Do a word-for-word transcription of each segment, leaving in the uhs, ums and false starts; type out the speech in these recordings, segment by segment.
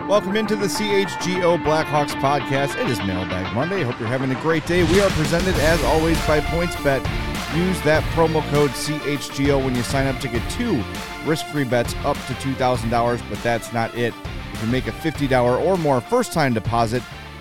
Welcome into the C H G O Blackhawks podcast. It is Mailbag Monday. I hope you're having a great day. We are presented, as always, by PointsBet. Use that promo code C H G O when you sign up to get two risk-free bets up to two thousand dollars, but that's not it. If you make a fifty dollars or more first-time deposit,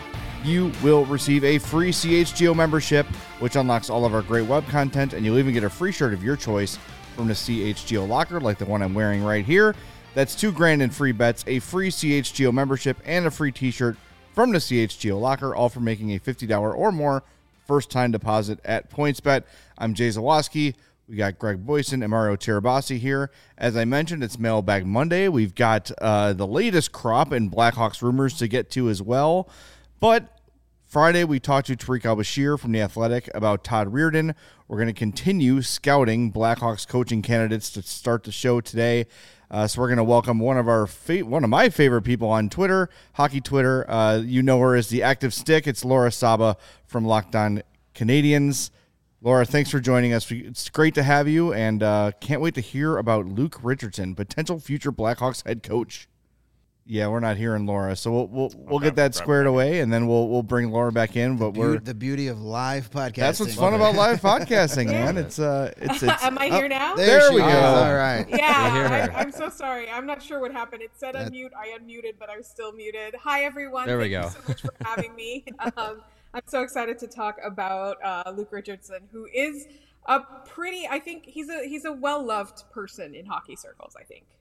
you will receive a free C H G O membership, which unlocks all of our great web content, and you'll even get a free shirt of your choice from the C H G O locker, like the one I'm wearing right here. That's two grand in free bets, a free C H G O membership, and a free t-shirt from the C H G O locker, all for making a fifty dollars or more first-time deposit at PointsBet. I'm Jay Zawaski. We got Greg Boyson and Mario Tirabassi here. As I mentioned, it's Mailbag Monday. We've got uh, the latest crop in Blackhawks rumors to get to as well. But Friday, we talked to Tarik El-Bashir from The Athletic about Todd Reirden. We're going to continue scouting Blackhawks coaching candidates to start the show today. Uh, so we're going to welcome one of our fa- one of my favorite people on Twitter, hockey Twitter. Uh, you know her as the Active Stick. It's Laura Saba from Locked On Canadiens. Laura, thanks for joining us. It's great to have you, and uh, can't wait to hear about Luke Richardson, potential future Blackhawks head coach. Yeah, we're not hearing Laura, so we'll we'll, we'll okay, get that squared away, and then we'll we'll bring Laura back in. But the we're the beauty of live podcasting. That's what's fun about live podcasting, man. It's uh, it's, it's Am I here now? There, There she we go. is. All right. Yeah, I, I'm so sorry. I'm not sure what happened. It said unmute. I unmuted, but I was still muted. Hi, everyone. There we Thank go. you so much for having me. Um, I'm so excited to talk about uh, Luke Richardson, who is a pretty. I think he's a he's a well loved person in hockey circles. I think.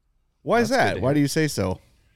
Why is That's good that? to Why hear. do you say so?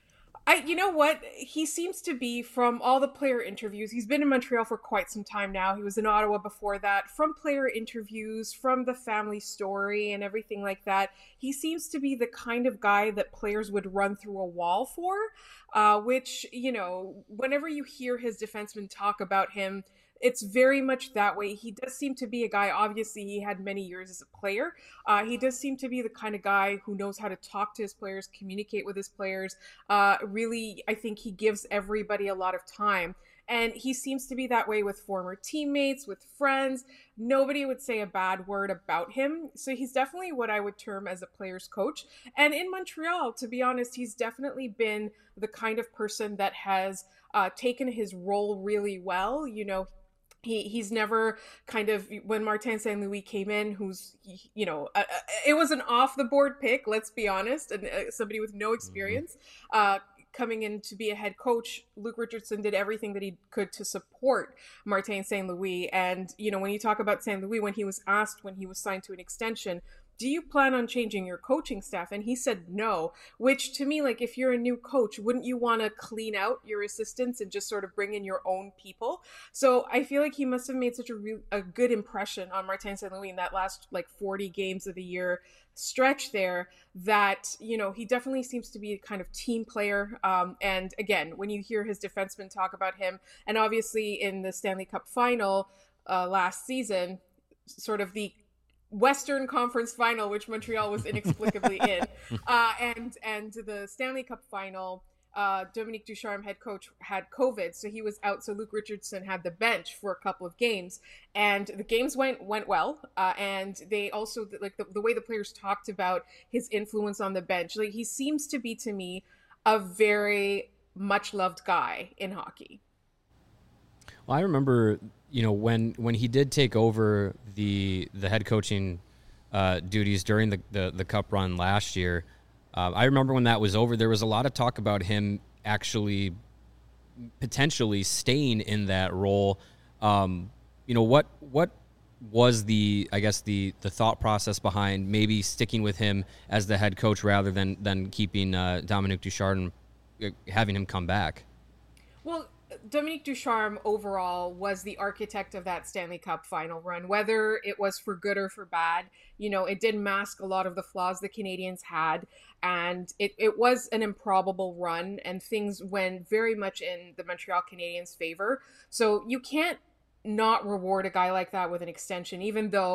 I, you know what? He seems to be, from all the player interviews, he's been in Montreal for quite some time now. He was in Ottawa before that. From player interviews, from the family story and everything like that, he seems to be the kind of guy that players would run through a wall for, uh, which, you know, whenever you hear his defensemen talk about him, it's very much that way. He does seem to be a guy, obviously he had many years as a player. Uh, he does seem to be the kind of guy who knows how to talk to his players, communicate with his players. Uh, really, I think he gives everybody a lot of time. And he seems to be that way with former teammates, with friends. Nobody would say a bad word about him. So he's definitely what I would term as a player's coach. And in Montreal, to be honest, he's definitely been the kind of person that has uh, taken his role really well. You know, He he's never kind of, when Martin Saint Louis came in, who's, you know, uh, it was an off the board pick, let's be honest, and uh, somebody with no experience uh, coming in to be a head coach. Luke Richardson did everything that he could to support Martin Saint Louis. And, you know, when you talk about Saint Louis, when he was asked when he was signed to an extension, do you plan on changing your coaching staff? And he said no, which to me, like, if you're a new coach, wouldn't you want to clean out your assistants and just sort of bring in your own people? So I feel like he must have made such a, re- a good impression on Martin Saint Louis in that last like forty games of the year stretch there, that, you know, he definitely seems to be a kind of team player. Um, and again, when you hear his defensemen talk about him, and obviously in the Stanley Cup final uh, last season, sort of the Western Conference final, which Montreal was inexplicably in, uh, and and the Stanley Cup final, uh, Dominique Ducharme, head coach, had COVID, so he was out. So Luke Richardson had the bench for a couple of games, and the games went went well. Uh, and they also, like the, the way the players talked about his influence on the bench, like he seems to be, to me, a very much loved guy in hockey. Well, I remember, you know, when when he did take over the the head coaching uh, duties during the, the, the Cup run last year, uh, I remember when that was over, there was a lot of talk about him actually potentially staying in that role. Um, you know, what what was the, I guess, the the thought process behind maybe sticking with him as the head coach rather than, than keeping uh, Dominique Ducharme, uh, having him come back? Well, Dominique Ducharme overall was the architect of that Stanley Cup final run, whether it was for good or for bad. You know, it did mask a lot of the flaws the Canadiens had, and it, it was an improbable run, and things went very much in the Montreal Canadiens' favor. So you can't not reward a guy like that with an extension, even though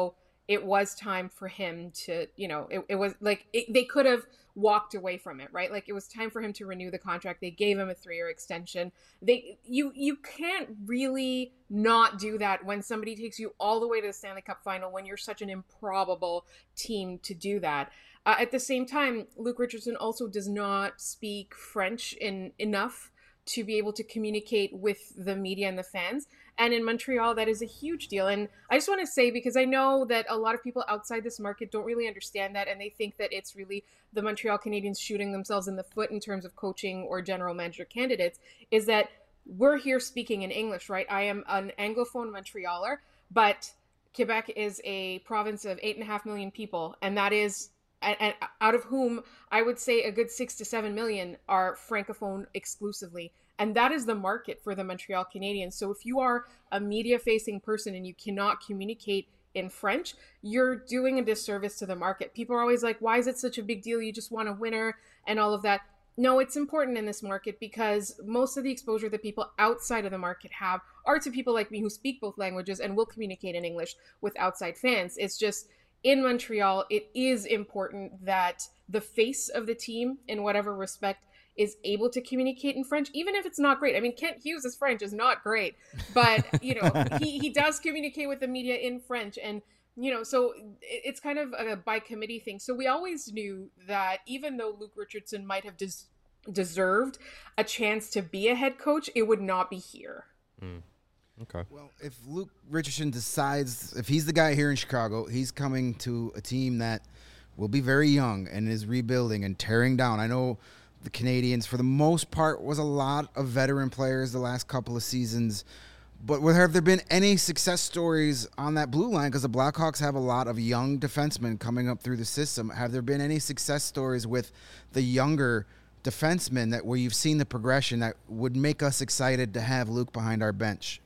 it was time for him to, you know, it, it was like it, they could have walked away from it, right? Like it was time for him to renew the contract. They gave him a three-year extension. They you you can't really not do that when somebody takes you all the way to the Stanley Cup final when you're such an improbable team to do that. Uh, at the same time, Luke Richardson also does not speak French in enough to be able to communicate with the media and the fans. And in Montreal, that is a huge deal. And I just want to say, because I know that a lot of people outside this market don't really understand that, and they think that it's really the Montreal Canadiens shooting themselves in the foot in terms of coaching or general manager candidates, is that we're here speaking in English, right? I am an Anglophone Montrealer, but Quebec is a province of eight and a half million people, and that is and out of whom I would say a good six to seven million are Francophone exclusively. And that is the market for the Montreal Canadiens. So if you are a media-facing person and you cannot communicate in French, you're doing a disservice to the market. People are always like, why is it such a big deal? You just want a winner and all of that. No, it's important in this market because most of the exposure that people outside of the market have are to people like me who speak both languages and will communicate in English with outside fans. It's just, in Montreal, it is important that the face of the team, in whatever respect, is able to communicate in French, even if it's not great. I mean, Kent Hughes' French is not great, but, you know, he, he does communicate with the media in French. And, you know, so it's kind of a by committee thing. So we always knew that even though Luke Richardson might have des- deserved a chance to be a head coach, it would not be here. Mm. Okay. Well, if Luke Richardson decides, if he's the guy here in Chicago, he's coming to a team that will be very young and is rebuilding and tearing down. I know the Canadiens, for the most part, was a lot of veteran players the last couple of seasons. But have there been any success stories on that blue line? Because the Blackhawks have a lot of young defensemen coming up through the system. Have there been any success stories with the younger defensemen that where you've seen the progression that would make us excited to have Luke behind our bench?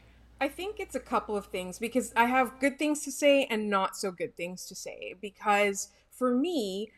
I think it's a couple of things because I have good things to say and not so good things to say. Because for me,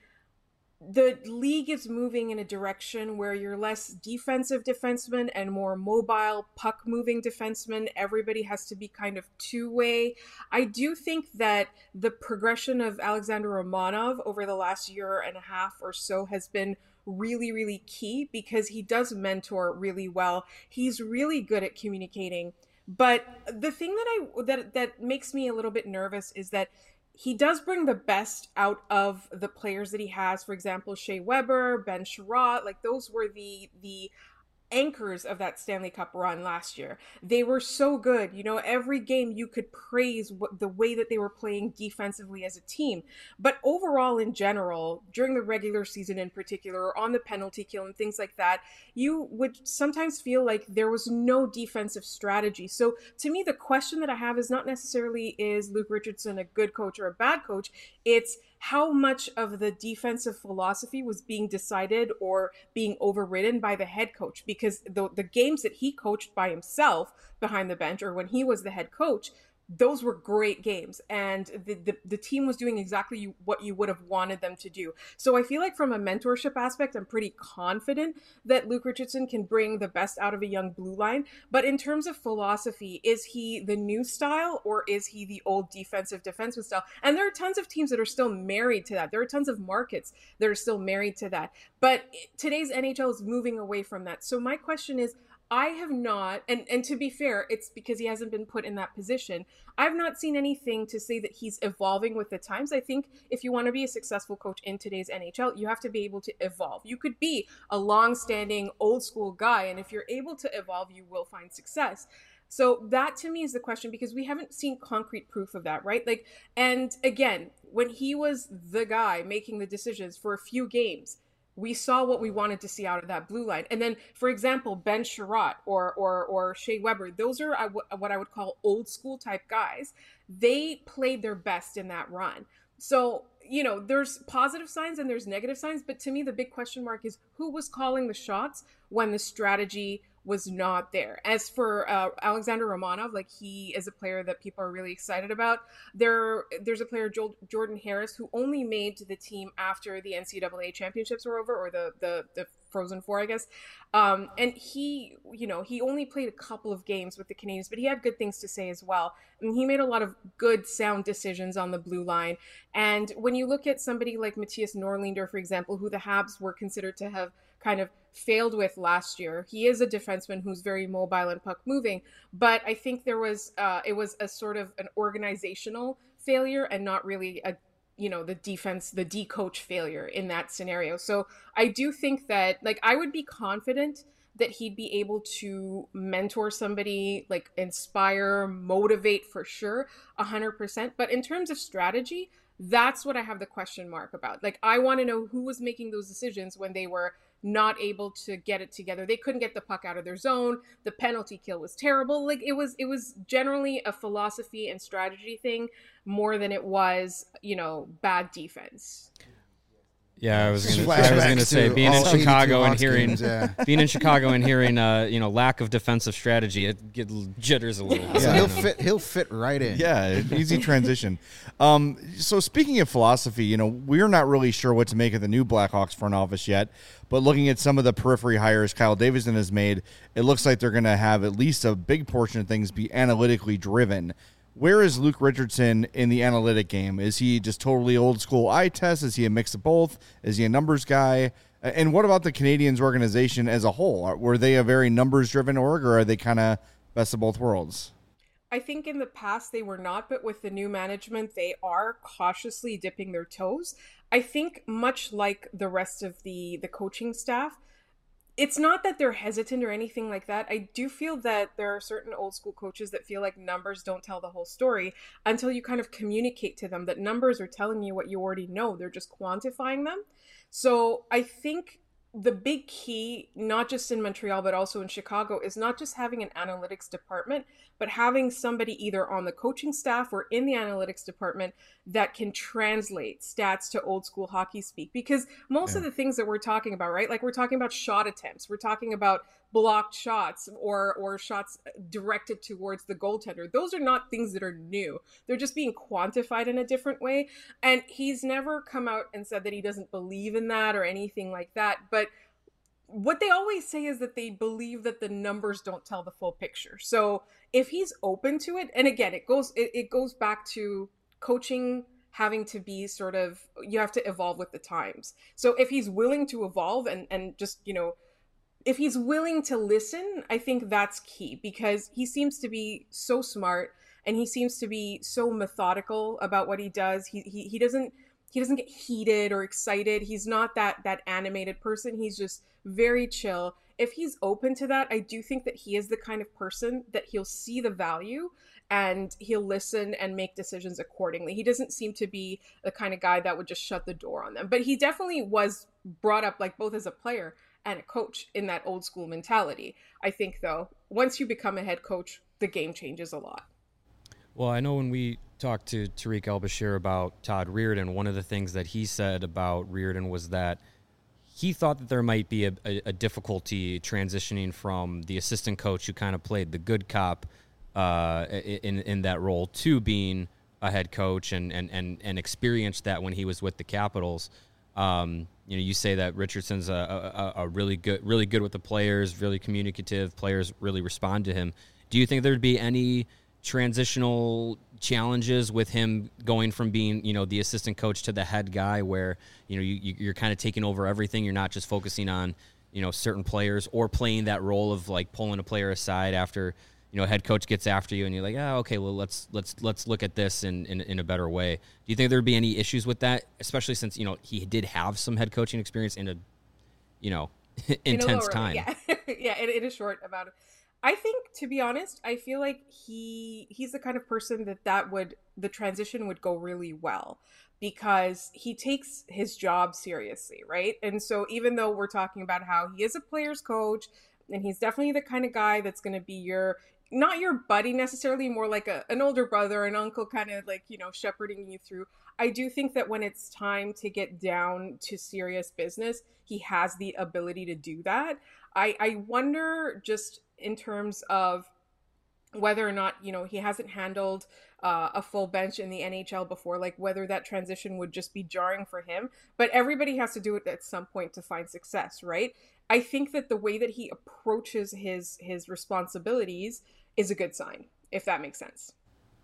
the league is moving in a direction where you're less defensive defensemen and more mobile, puck-moving defensemen. Everybody has to be kind of two-way. I do think that the progression of Alexander Romanov over the last year and a half or so has been really, really key because he does mentor really well. He's really good at communicating. But the thing that I that that makes me a little bit nervous is that he does bring the best out of the players that he has. For example, Shea Weber, Ben Sherratt, like those were the the anchors of that Stanley Cup run last year. They were so good. You know, every game you could praise what, the way that they were playing defensively as a team. But overall, in general, during the regular season in particular, or on the penalty kill and things like that, you would sometimes feel like there was no defensive strategy. So to me, the question that I have is not necessarily is Luke Richardson a good coach or a bad coach? It's how much of the defensive philosophy was being decided or being overridden by the head coach, because the, the games that he coached by himself behind the bench or when he was the head coach, those were great games, and the, the, the team was doing exactly you, what you would have wanted them to do. So I feel like from a mentorship aspect, I'm pretty confident that Luke Richardson can bring the best out of a young blue line. But in terms of philosophy, is he the new style or is he the old defensive defenseman style? And there are tons of teams that are still married to that. There are tons of markets that are still married to that. But today's N H L is moving away from that. So my question is, I have not, and, and to be fair, it's because he hasn't been put in that position. I've not seen anything to say that he's evolving with the times. I think if you want to be a successful coach in today's N H L, you have to be able to evolve. You could be a long-standing, old-school guy, and if you're able to evolve, you will find success. So that to me is the question, because we haven't seen concrete proof of that, right? Like, and again, when he was the guy making the decisions for a few games, we saw what we wanted to see out of that blue line. And then, for example, Ben Sherratt or or or Shea Weber, those are what I would call old school type guys. They played their best in that run. So, you know, there's positive signs and there's negative signs. But to me, the big question mark is who was calling the shots when the strategy was not there. As for uh, Alexander Romanov, like he is a player that people are really excited about. There, there's a player, jo- Jordan Harris, who only made to the team after the N C double A championships were over, or the the the Frozen Four, I guess. Um, and he, you know, he only played a couple of games with the Canadiens, but he had good things to say as well. I mean, he made a lot of good, sound decisions on the blue line. And when you look at somebody like Matthias Norlinder, for example, who the Habs were considered to have kind of failed with last year, he is a defenseman who's very mobile and puck moving. But I think there was, uh, it was a sort of an organizational failure and not really a you know, the defense, the D coach failure in that scenario. So I do think that, like, I would be confident that he'd be able to mentor somebody, like inspire, motivate for sure, a hundred percent. But in terms of strategy, that's what I have the question mark about. Like, I want to know who was making those decisions when they were not able to get it together. They couldn't get the puck out of their zone. The penalty kill was terrible. Like it was, it was generally a philosophy and strategy thing more than it was, you know, bad defense. Yeah, I was gonna, I was gonna say being in Chicago and hearing games, yeah. being in Chicago and hearing uh, you know, lack of defensive strategy, it get jitters a little. Yeah, So, he'll you know. fit. He'll fit right in. Yeah, easy transition. Um, so speaking of philosophy, you know, we're not really sure what to make of the new Blackhawks front office yet, but looking at some of the periphery hires Kyle Davidson has made, it looks like they're going to have at least a big portion of things be analytically driven. Where is Luke Richardson in the analytic game? Is he just totally old school eye test? Is he a mix of both? Is he a numbers guy? And what about the Canadiens organization as a whole? Were they a very numbers driven org, or are they kind of best of both worlds? I think in the past they were not, but with the new management, they are cautiously dipping their toes. I think much like the rest of the, the coaching staff, it's not that they're hesitant or anything like that. I do feel that there are certain old school coaches that feel like numbers don't tell the whole story until you kind of communicate to them that numbers are telling you what you already know. They're just quantifying them. So I think the big key, not just in Montreal, but also in Chicago, is not just having an analytics department, but having somebody either on the coaching staff or in the analytics department that can translate stats to old school hockey speak. Because most Yeah. of the things that we're talking about, right? Like we're talking about shot attempts, we're talking about blocked shots or or shots directed towards the goaltender. Those are not things that are new. They're just being quantified in a different way. And he's never come out and said that he doesn't believe in that or anything like that. But what they always say is that they believe that the numbers don't tell the full picture. So if he's open to it, and again, it goes it, it goes back to coaching having to be sort of, you have to evolve with the times. So if he's willing to evolve and and just, you know, if he's willing to listen, I think that's key, because he seems to be so smart and he seems to be so methodical about what he does. He he he doesn't he doesn't get heated or excited. He's not that that animated person. He's just very chill. If he's open to that, I do think that he is the kind of person that he'll see the value and he'll listen and make decisions accordingly. He doesn't seem to be the kind of guy that would just shut the door on them. But he definitely was brought up, like, both as a player and a coach in that old school mentality. I think, though, once you become a head coach, the game changes a lot. Well, I know when we talked to Tariq El-Bashir about Todd Reirden, one of the things that he said about Reirden was that he thought that there might be a, a, a difficulty transitioning from the assistant coach who kind of played the good cop uh, in in that role to being a head coach and, and, and, and experienced that when he was with the Capitals. Um, you know, you say that Richardson's a, a, a really good, really good with the players, really communicative. Players really respond to him. Do you think there'd be any transitional challenges with him going from being, you know, the assistant coach to the head guy, where, you know, you, you're kind of taking over everything? You're not just focusing on, you know, certain players or playing that role of like pulling a player aside after, you know, head coach gets after you and you're like, oh, okay, well, let's let's let's look at this in, in, in a better way. Do you think there'd be any issues with that, especially since, you know, he did have some head coaching experience in a, you know, intense in time? Yeah, yeah, in, in a short amount of. I think, to be honest, I feel like he he's the kind of person that that would the transition would go really well, because he takes his job seriously, right? And so even though we're talking about how he is a player's coach and he's definitely the kind of guy that's going to be your not your buddy necessarily, more like a, an older brother, an uncle, kind of like, you know, shepherding you through. I do think that when it's time to get down to serious business, he has the ability to do that. I, I wonder just in terms of whether or not, you know, he hasn't handled uh, a full bench in the N H L before, like whether that transition would just be jarring for him. But everybody has to do it at some point to find success, right? I think that the way that he approaches his his responsibilities is a good sign, if that makes sense.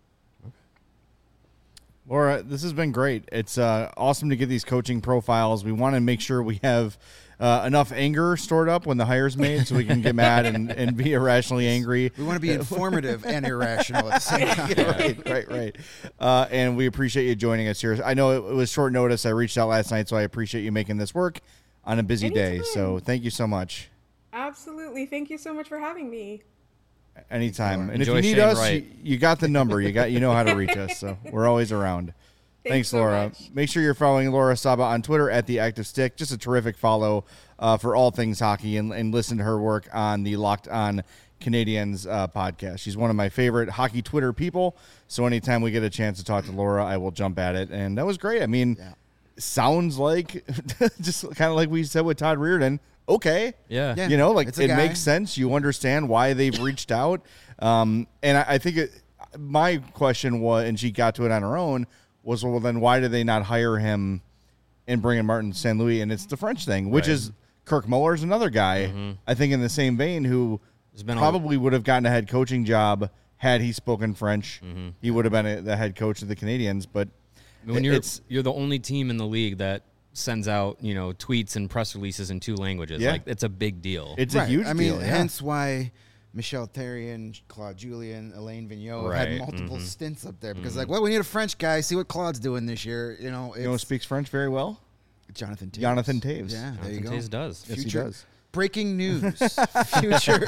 Laura, this has been great. It's uh, awesome to get these coaching profiles. We want to make sure we have uh, enough anger stored up when the hire's made so we can get mad and, and be irrationally angry. We want to be informative and irrational at the same time. right, right, right. Uh, and we appreciate you joining us here. I know it was short notice. I reached out last night, so I appreciate you making this work on a busy Anytime. day. So thank you so much. Absolutely. Thank you so much for having me. Anytime. And Enjoy if you need Shane us, Wright. you, you got the number. You got you know how to reach us. So we're always around. Thanks, Thanks, so Laura. much. Make sure you're following Laura Saba on Twitter at The Active Stick. Just a terrific follow uh, for all things hockey, and, and listen to her work on the Locked On Canadians uh, podcast. She's one of my favorite hockey Twitter people. So anytime we get a chance to talk to Laura, I will jump at it. And that was great. I mean, Yeah. sounds like just kind of like we said with Todd Reardon. Okay. Yeah. Yeah. You know, like It's a it guy. makes sense. You understand why they've reached out. Um, and I, I think it, my question was, and she got to it on her own, was, well, then why did they not hire him and bring in Martin Saint Louis? And it's the French thing, which Right. is Kirk Muller's another guy, Mm-hmm. I think in the same vein, who There's been a- probably would have gotten a head coaching job had he spoken French. Mm-hmm. He would have been a, the head coach of the Canadians. But When you're it's you're the only team in the league that sends out, you know, tweets and press releases in two languages. Yeah. Like, it's a big deal. it's a huge I mean, deal. Yeah. hence why Michel Therrien, Claude Julien, Elaine Vigneault Right. had multiple Mhm. stints up there because, like, well, we need a French guy. See what Claude's doing this year. You know, it's You know who speaks French very well? Jonathan Taves. Jonathan Taves. Yeah, there you Jonathan go. Taves does. Yes, he Future- does. Breaking news. Future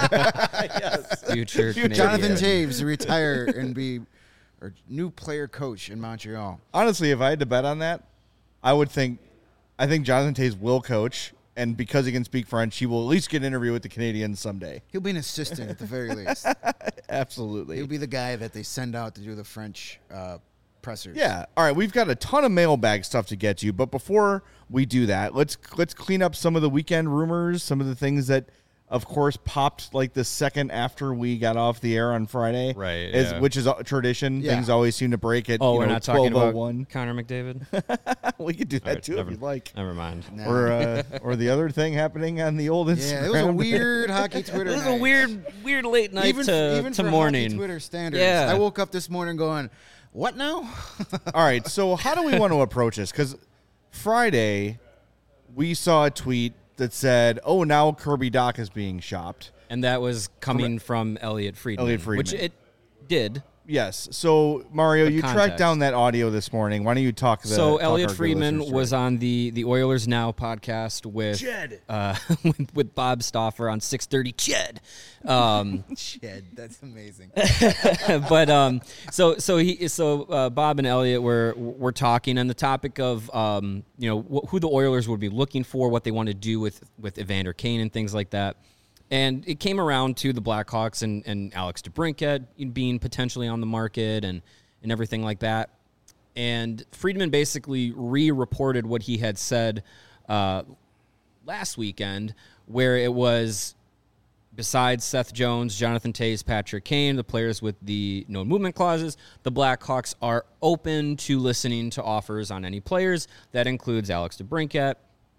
Future Canadian. Jonathan Taves retire and be or new player coach in Montreal. Honestly, if I had to bet on that, I would think, I think Jonathan Taves will coach, and because he can speak French, he will at least get an interview with the Canadians someday. He'll be an assistant at the very least. Absolutely. He'll be the guy that they send out to do the French uh, pressers. Yeah. All right. We've got a ton of mailbag stuff to get to, but before we do that, let's let's clean up some of the weekend rumors, some of the things that, of course, popped like the second after we got off the air on Friday, Right, As, yeah. which is a tradition. Yeah. Things always seem to break at Oh, you we're know, not talking about twelve oh one. Connor McDavid? We could do that All right, too never, if you'd like. Never mind. No. Or uh, or the other thing happening on the old Instagram. Yeah, it was a weird hockey Twitter It was night. a weird, weird late night even, to, even to for morning. hockey Twitter standards. Yeah. I woke up this morning going, what now? All right, so how do we want to approach this? Because Friday, we saw a tweet that said, oh, now Kirby Dach is being shopped. And that was coming from Elliot Friedman. Elliot Friedman. Which it did. Yes. So, Mario, The you tracked context. down that audio this morning. Why don't you talk the So talk Elliot our good Friedman listeners was through it? on the, the Oilers Now podcast with Jed. uh, with, with Bob Stauffer on six thirty. Jed. Um, Shed. That's amazing. but um, so so he so uh, Bob and Elliot were were talking on the topic of um, you know wh- who the Oilers would be looking for, what they want to do with with Evander Kane and things like that. And it came around to the Blackhawks and, and Alex DeBrincat being potentially on the market and, and everything like that. And Friedman basically re-reported what he had said uh, last weekend, where it was, besides Seth Jones, Jonathan Taves, Patrick Kane, the players with the no movement clauses, the Blackhawks are open to listening to offers on any players. That includes Alex DeBrincat.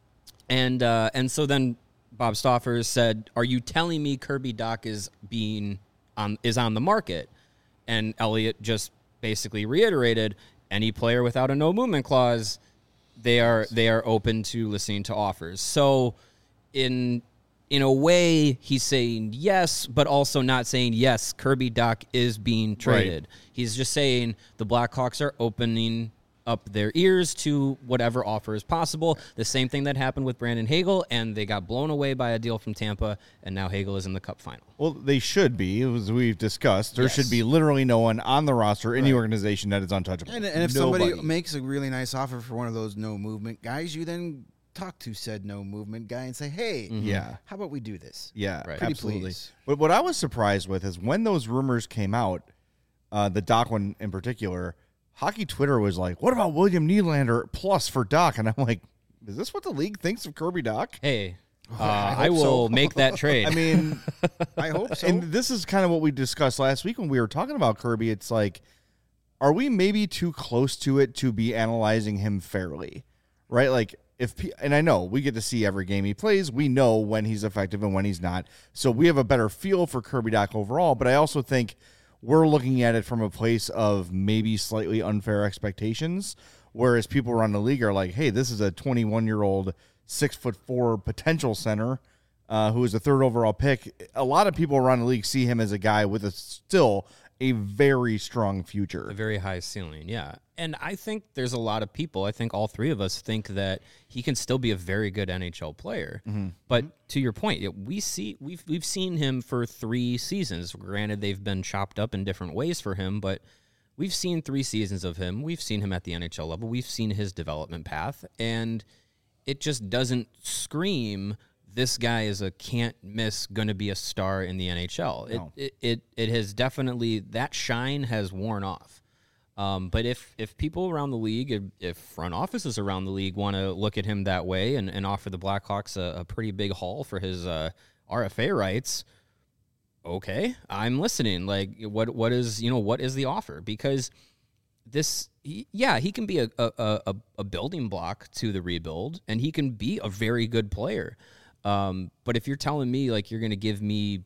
And uh, and so then Bob Stauffer said, "Are you telling me Kirby Dach is being on is on the market?" And Elliot just basically reiterated, "Any player without a no movement clause, they are they are open to listening to offers." So, in in a way, he's saying yes, but also not saying yes. Kirby Dach is being traded. He's just saying the Blackhawks are opening up their ears to whatever offer is possible. The same thing that happened with Brandon Hagel, and they got blown away by a deal from Tampa, and now Hagel is in the Cup final. Well, they should be, as we've discussed. There Yes. should be literally no one on the roster in the organization that is untouchable. And, and if Nobody. somebody makes a really nice offer for one of those no movement guys, you then talk to said no movement guy and say, hey, Mm-hmm. Yeah. how about we do this? Yeah, Right. Pretty absolutely. please. But what I was surprised with is when those rumors came out, uh, the Doc one in particular, hockey Twitter was like, what about William Nylander plus for Doc? And I'm like, is this what the league thinks of Kirby Doc? Hey, uh, I I, hope so. will make that trade. I mean, I hope so. and this is kind of what we discussed last week when we were talking about Kirby. It's like, are we maybe too close to it to be analyzing him fairly, right? Like if, pe- and I know we get to see every game he plays. We know when he's effective and when he's not. So we have a better feel for Kirby Doc overall. But I also think we're looking at it from a place of maybe slightly unfair expectations. Whereas people around the league are like, hey, this is a twenty-one year old, six foot four potential center uh, who is a third overall pick. A lot of people around the league see him as a guy with a still a very strong future. A very high ceiling, yeah. And I think there's a lot of people, I think all three of us think that he can still be a very good N H L player. Mm-hmm. But to your point, it- we see we've we've seen him for three seasons. Granted, they've been chopped up in different ways for him, but we've seen three seasons of him. We've seen him at the N H L level. We've seen his development path, and it just doesn't scream this guy is a can't miss, going to be a star in the N H L. No. It, it it it has definitely, that shine has worn off. Um, but if if people around the league, if, if front offices around the league want to look at him that way and, and offer the Blackhawks a, a pretty big haul for his uh, R F A rights, okay, I'm listening. Like, what what is you know what is the offer? Because this, he, yeah, he can be a, a a a building block to the rebuild, and he can be a very good player. Um, but if you're telling me like you're going to give me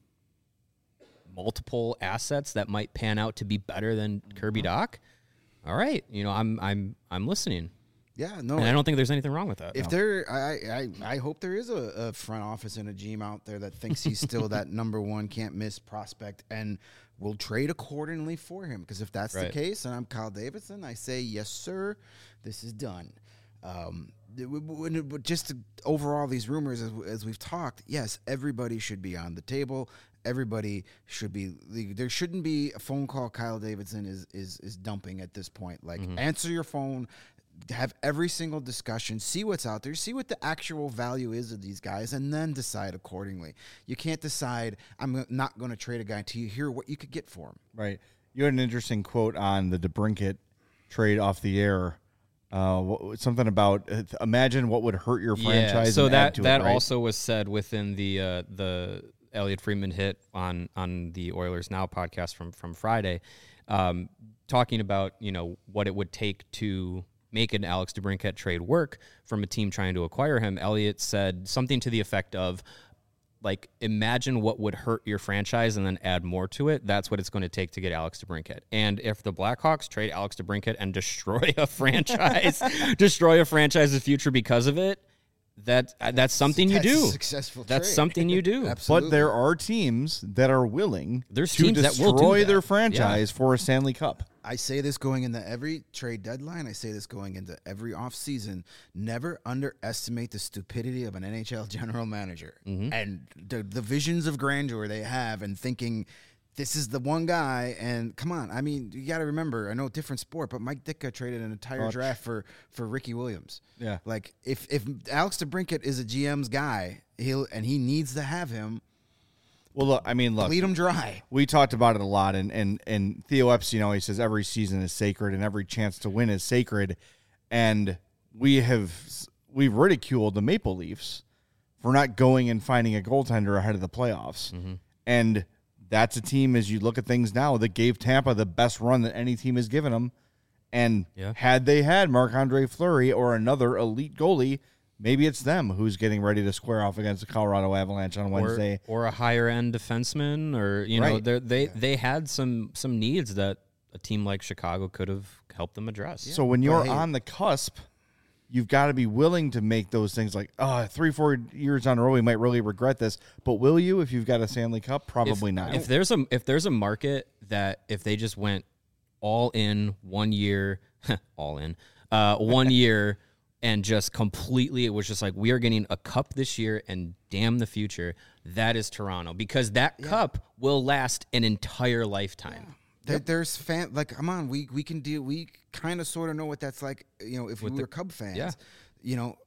multiple assets that might pan out to be better than Kirby Doc, all right, you know, I'm I'm I'm listening, Yeah, no. and I don't think there's anything wrong with that. If there, I, I, I hope there is a, a front office and a G M out there that thinks he's still that number one can't miss prospect and will trade accordingly for him. Because if that's Right. the case, and I'm Kyle Davidson, I say yes, sir. This is done. Um, it w- w- w- just to, overall, these rumors, as, as we've talked, yes, everybody should be on the table. Everybody should be. There shouldn't be a phone call Kyle Davidson is is is dumping at this point. Like, answer your phone. Have every single discussion, see what's out there, see what the actual value is of these guys, and then decide accordingly. You can't decide, I'm not going to trade a guy until you hear what you could get for him. Right. You had an interesting quote on the DeBrincat trade off the air. Uh, what, something about uh, imagine what would hurt your franchise. Yeah, so and that add to that it, right? also was said within the uh, the Elliot Friedman hit on on the Oilers Now podcast from from Friday, um, talking about you know what it would take to make an Alex DeBrincat trade work from a team trying to acquire him. Elliot said something to the effect of, like, imagine what would hurt your franchise and then add more to it. That's what it's going to take to get Alex DeBrincat. And if the Blackhawks trade Alex DeBrincat and destroy a franchise, destroy a franchise's future because of it, that that's something you That's a do. successful That's trade. something you do. Absolutely. But there are teams that are willing There's to teams that destroy will do that. their franchise for a Stanley Cup. I say this going into every trade deadline. I say this going into every offseason. Never underestimate the stupidity of an N H L general manager and the, the visions of grandeur they have and thinking this is the one guy. And come on, I mean, you got to remember, I know different sport, but Mike Ditka traded an entire Oh, draft for, for Ricky Williams. Yeah. Like if, if Alex DeBrincat is a G M's guy, he'll and he needs to have him, Well, look, I mean, look, bleed him dry. we talked about it a lot, and and and Theo Epstein always says every season is sacred and every chance to win is sacred, and we have we've ridiculed the Maple Leafs for not going and finding a goaltender ahead of the playoffs, Mm-hmm. and that's a team, as you look at things now, that gave Tampa the best run that any team has given them, and Yeah. had they had Marc-Andre Fleury or another elite goalie, maybe it's them who's getting ready to square off against the Colorado Avalanche on Wednesday. Or, or a higher end defenseman, or you know, Right. they're- they they had some some needs that a team like Chicago could have helped them address. So when you're But hey- on the cusp, you've got to be willing to make those things like, oh, three, four years on a row, we might really regret this. But will you if you've got a Stanley Cup? Probably if, not. If there's a if there's a market that if they just went all in one year, all in uh, one year, and just completely, it was just like we are getting a cup this year and damn the future. That is Toronto, because that cup will last an entire lifetime. There, there's fan like come on, we we can deal. We kind of sort of know what that's like. You know, if we were Cub fans, yeah. you know,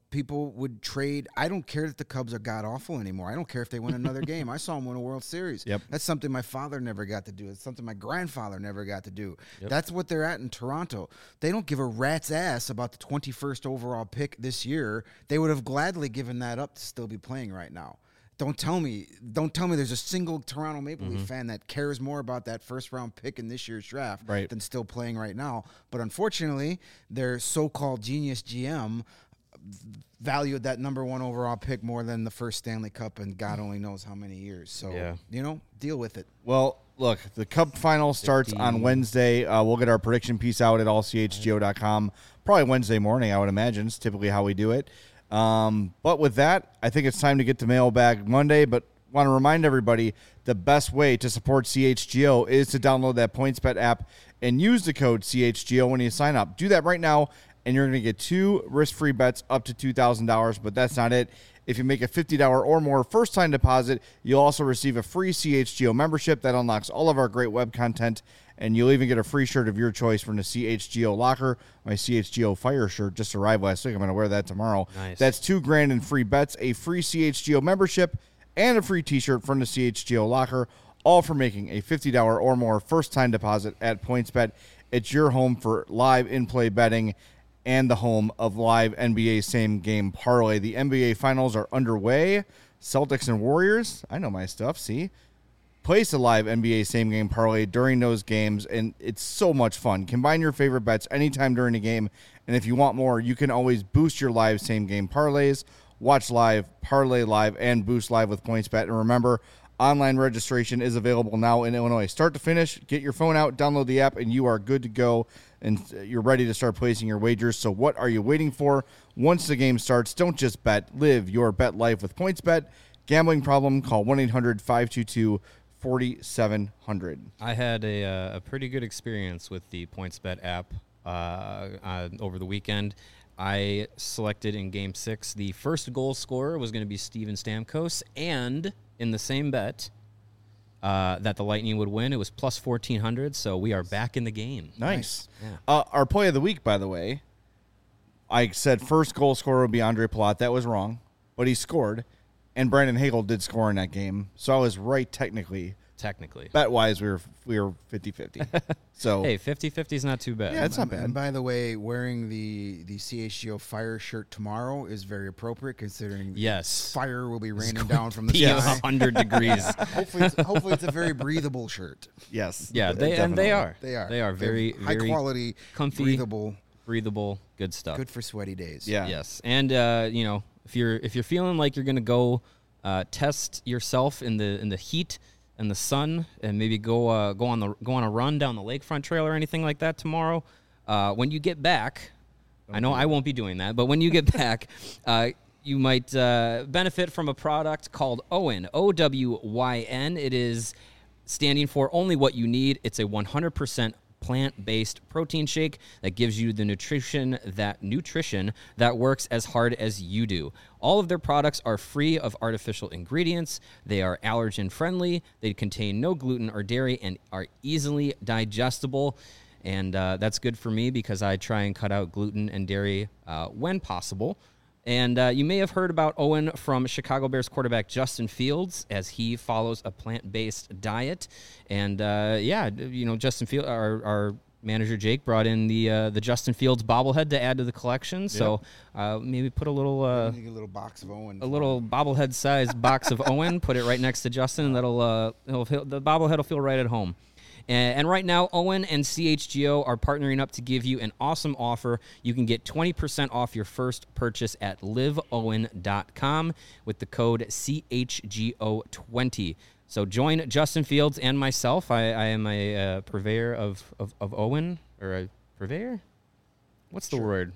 people would trade. I don't care that the Cubs are god awful anymore. I don't care if they win another game. I saw them win a World Series. Yep. That's something my father never got to do. It's something my grandfather never got to do. Yep. That's what they're at in Toronto. They don't give a rat's ass about the twenty-first overall pick this year. They would have gladly given that up to still be playing right now. Don't tell me, don't tell me there's a single Toronto Maple Mm-hmm. Leaf fan that cares more about that first round pick in this year's draft Right. than still playing right now. But unfortunately, their so-called genius G M valued that number one overall pick more than the first Stanley Cup, and God only knows how many years. So, Yeah. you know, deal with it. Well, look, the Cup final starts on fifty Wednesday. Uh, we'll get our prediction piece out at all c h g o dot com. Probably Wednesday morning, I would imagine. It's typically how we do it. Um, but with that, I think it's time to get to Mailbag Monday. But want to remind everybody, the best way to support C H G O is to download that PointsBet app and use the code C H G O when you sign up. Do that right now, and you're going to get two risk-free bets up to two thousand dollars. But that's not it. If you make a fifty dollars or more first-time deposit, you'll also receive a free C H G O membership that unlocks all of our great web content, and you'll even get a free shirt of your choice from the C H G O locker. My C H G O Fire shirt just arrived last week. I'm going to wear that tomorrow. Nice. That's two grand in free bets, a free C H G O membership, and a free T-shirt from the C H G O locker, all for making a fifty dollars or more first-time deposit at PointsBet. It's your home for live in-play betting and the home of live N B A same-game parlay. The N B A Finals are underway. Celtics and Warriors, I know my stuff, see? Place a live N B A same-game parlay during those games, and it's so much fun. Combine your favorite bets anytime during the game, and if you want more, you can always boost your live same-game parlays. Watch live, parlay live, and boost live with PointsBet. And remember, online registration is available now in Illinois. Start to finish, get your phone out, download the app, and you are good to go, and you're ready to start placing your wagers. So what are you waiting for? Once the game starts, don't just bet. Live your bet life with PointsBet. Gambling problem? Call one eight hundred five two two four seven zero zero. I had a, uh, a pretty good experience with the PointsBet app uh, uh, over the weekend. I selected in Game six the first goal scorer was going to be Steven Stamkos, and in the same bet uh, that the Lightning would win, it was plus fourteen hundred, so we are back in the game. Nice. Yeah. Uh, our play of the week, by the way, I said first goal scorer would be Andre Palat. That was wrong, but he scored, and Brandon Hagel did score in that game, so I was right technically. Technically. Bet-wise, we were we were fifty-fifty. So Hey, fifty-fifty is not too bad. Yeah, it's not And- bad. And by the way, wearing the, the C H G O Fire shirt tomorrow is very appropriate, considering Yes. fire will be raining down from the Be sky. one hundred degrees. hopefully, it's, hopefully, it's a very breathable shirt. yes, Yeah, d- they and they definitely. are. They are. They are They're very high very quality, comfy, breathable, breathable, good stuff. good for sweaty days. Yeah. Yes, and uh, you know, if you're if you're feeling like you're gonna go uh, test yourself in the in the heat and the sun, and maybe go uh, go on the go on a run down the lakefront trail or anything like that tomorrow, uh, when you get back, I know I won't be doing that, but when you get back, uh, you might uh, benefit from a product called Owen, O W Y N. It is standing for only what you need. It's a one hundred percent plant-based protein shake that gives you the nutrition that nutrition that works as hard as you do. All of their products are free of artificial ingredients. They are allergen friendly. They contain no gluten or dairy and are easily digestible. And uh, that's good for me because I try and cut out gluten and dairy uh, when possible. And uh, you may have heard about Owen from Chicago Bears quarterback Justin Fields, as he follows a plant-based diet. And uh, yeah, you know, Justin Fields, our, our manager Jake brought in the uh, the Justin Fields bobblehead to add to the collection. So uh, maybe put a little uh, You get a little box of Owen. a little bobblehead-sized box of Owen, put it right next to Justin. That'll uh, it'll feel, the bobblehead will feel right at home. And, and right now, Owen and C H G O are partnering up to give you an awesome offer. You can get twenty percent off your first purchase at live owen dot com with the code C H G O twenty. So join Justin Fields and myself. I, I am a uh, purveyor of, of, of Owen, or a purveyor? What's the word?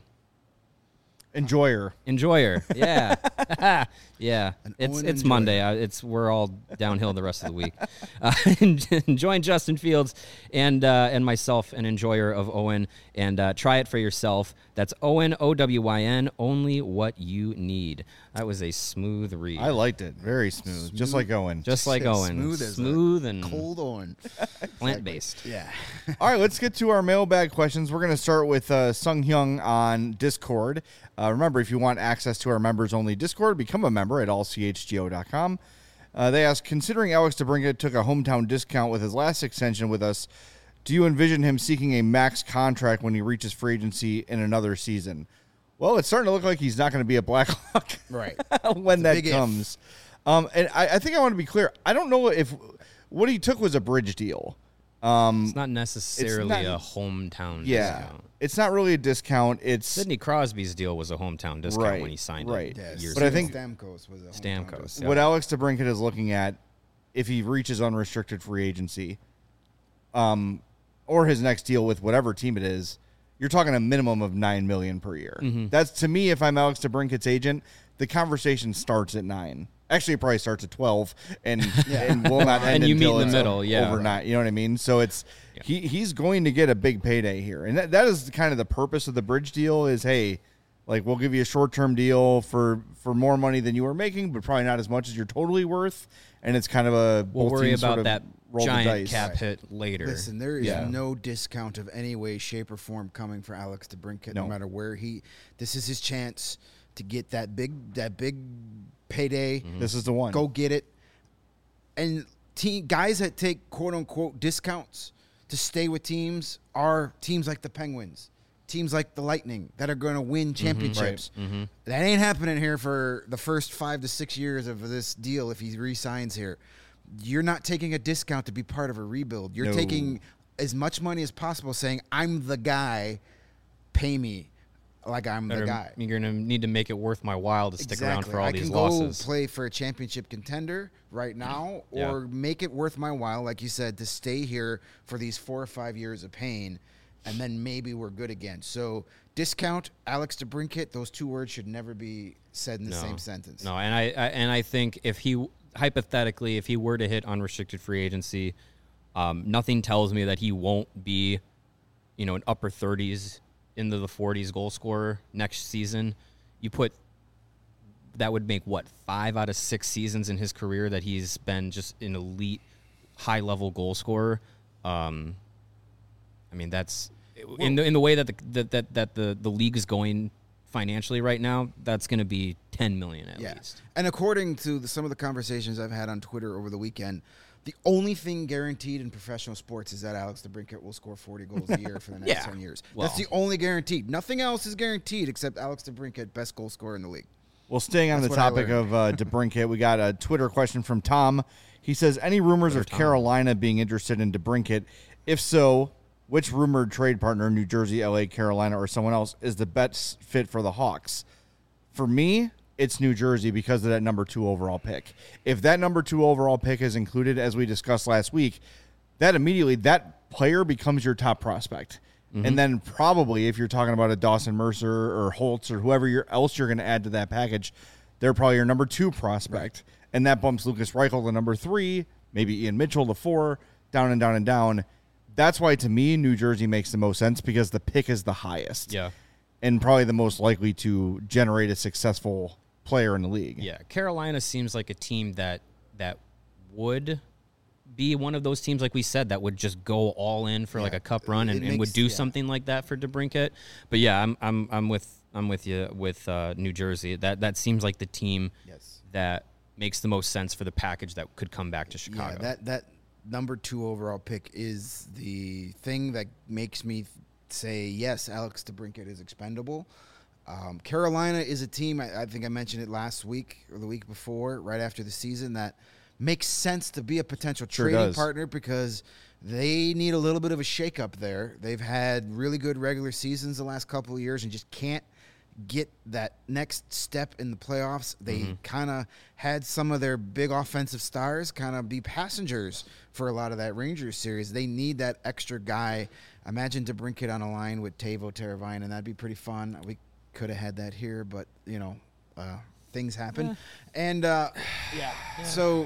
Enjoyer. Enjoyer, yeah, yeah. An It's Owen it's enjoyer. Monday. Uh, It's we're all downhill the rest of the week. Uh, join Justin Fields and uh, and myself, an enjoyer of Owen, and uh, try it for yourself. That's Owen, O W Y N. Only what you need. That was a smooth read. I liked it. Very smooth, just like Owen. Just like Yeah, Owen, smooth as a smooth and cold Owen. plant based. Yeah. All right, let's get to our mailbag questions. We're going to start with uh, Sung Hyung on Discord. Uh, remember, if you want access to our members-only Discord, become a member at all c h g o dot com. Uh, they ask, considering Alex DeBrincat took a hometown discount with his last extension with us, do you envision him seeking a max contract when he reaches free agency in another season? Well, it's starting to look like he's not going to be a Blackhawk Right. when that big comes. Um, and I, I think I want to be clear. I don't know if what he took was a bridge deal. Um, It's not necessarily not- a hometown yeah, discount. it's not really a discount. It's Sidney Crosby's deal was a hometown discount Right, when he signed right. it. Yes. Years But I ago. think- Stamkos was a hometown Stamkos, discount. yeah. what Alex DeBrincat is looking at if he reaches unrestricted free agency, um, or his next deal with whatever team it is. You're talking a minimum of nine million per year. Mm-hmm. That's to me. If I'm Alex DeBrincat's agent, the conversation starts at nine. Actually, it probably starts at twelve, and and will not end And you meet until in the it's middle, yeah. overnight. You know what I mean? So it's he he's going to get a big payday here, and that, that is kind of the purpose of the bridge deal. Is hey, like we'll give you a short term deal for for more money than you were making, but probably not as much as you're totally worth. And it's kind of a We'll both worry teams about sort of that roll the giant dice. cap hit later. Listen, there is Yeah. no discount of any way, shape, or form coming for Alex DeBrincat. No. No. matter where he, this is his chance to get that big, that big payday. This is the one. Go get it. And team guys that take quote unquote discounts to stay with teams are teams like the Penguins, teams like the Lightning that are going to win championships. That ain't happening here for the first five to six years of this deal if he re-signs here. You're not taking a discount to be part of a rebuild. You're No. taking as much money as possible saying, I'm the guy, pay me like I'm the Better- guy. You're going to need to make it worth my while to stick around for all I these can losses. go play for a championship contender right now, Yeah. or make it worth my while, like you said, to stay here for these four or five years of pain, and then maybe we're good again. So discount, Alex DeBrincat, those two words should never be said in the No. same sentence. No, and I, I and I think if he hypothetically, if he were to hit unrestricted free agency, um, nothing tells me that he won't be, you know, an upper thirties into the forties goal scorer next season. You put that would make what five out of six seasons in his career that he's been just an elite, high level goal scorer. Um, I mean, that's in the in the way that the that that, that the the league is going financially right now, that's going to be ten million at Yeah. least. And according to the, some of the conversations I've had on Twitter over the weekend, the only thing guaranteed in professional sports is that Alex DeBrincat will score forty goals a year for the next Yeah. ten years. Well. That's the only guaranteed. Nothing else is guaranteed except Alex DeBrincat, best goal scorer in the league. Well, staying on That's the what I topic learned. of uh, DeBrincat, we got a Twitter question from Tom. He says, any rumors of Tom. Carolina being interested in DeBrincat? If so, which rumored trade partner, New Jersey, L A, Carolina, or someone else, is the best fit for the Hawks? For me, it's New Jersey because of that number two overall pick. If that number two overall pick is included, as we discussed last week, that immediately, that player becomes your top prospect. Mm-hmm. And then probably if you're talking about a Dawson Mercer or Holtz or whoever you're, else you're going to add to that package, they're probably your number two prospect. Right. And that bumps Lucas Reichel to number three, maybe Ian Mitchell to four, down and down and down. That's why, to me, New Jersey makes the most sense because the pick is the highest. Yeah. And probably the most likely to generate a successful player in the league. Yeah, Carolina seems like a team that that would be one of those teams, like we said, that would just go all in for like Yeah, a cup run and, it and would makes- do yeah. something like that for DeBrincat. But yeah, I'm I'm I'm with I'm with you with uh, New Jersey. That that seems like the team Yes. that makes the most sense for the package that could come back to Chicago. Yeah, that that number two overall pick is the thing that makes me say yes, Alex DeBrincat is expendable. Um, Carolina is a team. I, I think I mentioned it last week or the week before, right after the season, that makes sense to be a potential Sure trading does. partner because they need a little bit of a shakeup there. They've had really good regular seasons the last couple of years and just can't get that next step in the playoffs. They kind of had some of their big offensive stars kind of be passengers for a lot of that Rangers series. They need that extra guy. Imagine DeBrincat on a line with Teuvo Teravainen, and that'd be pretty fun. We could have had that here, but, you know, uh, things happen. And uh, yeah, so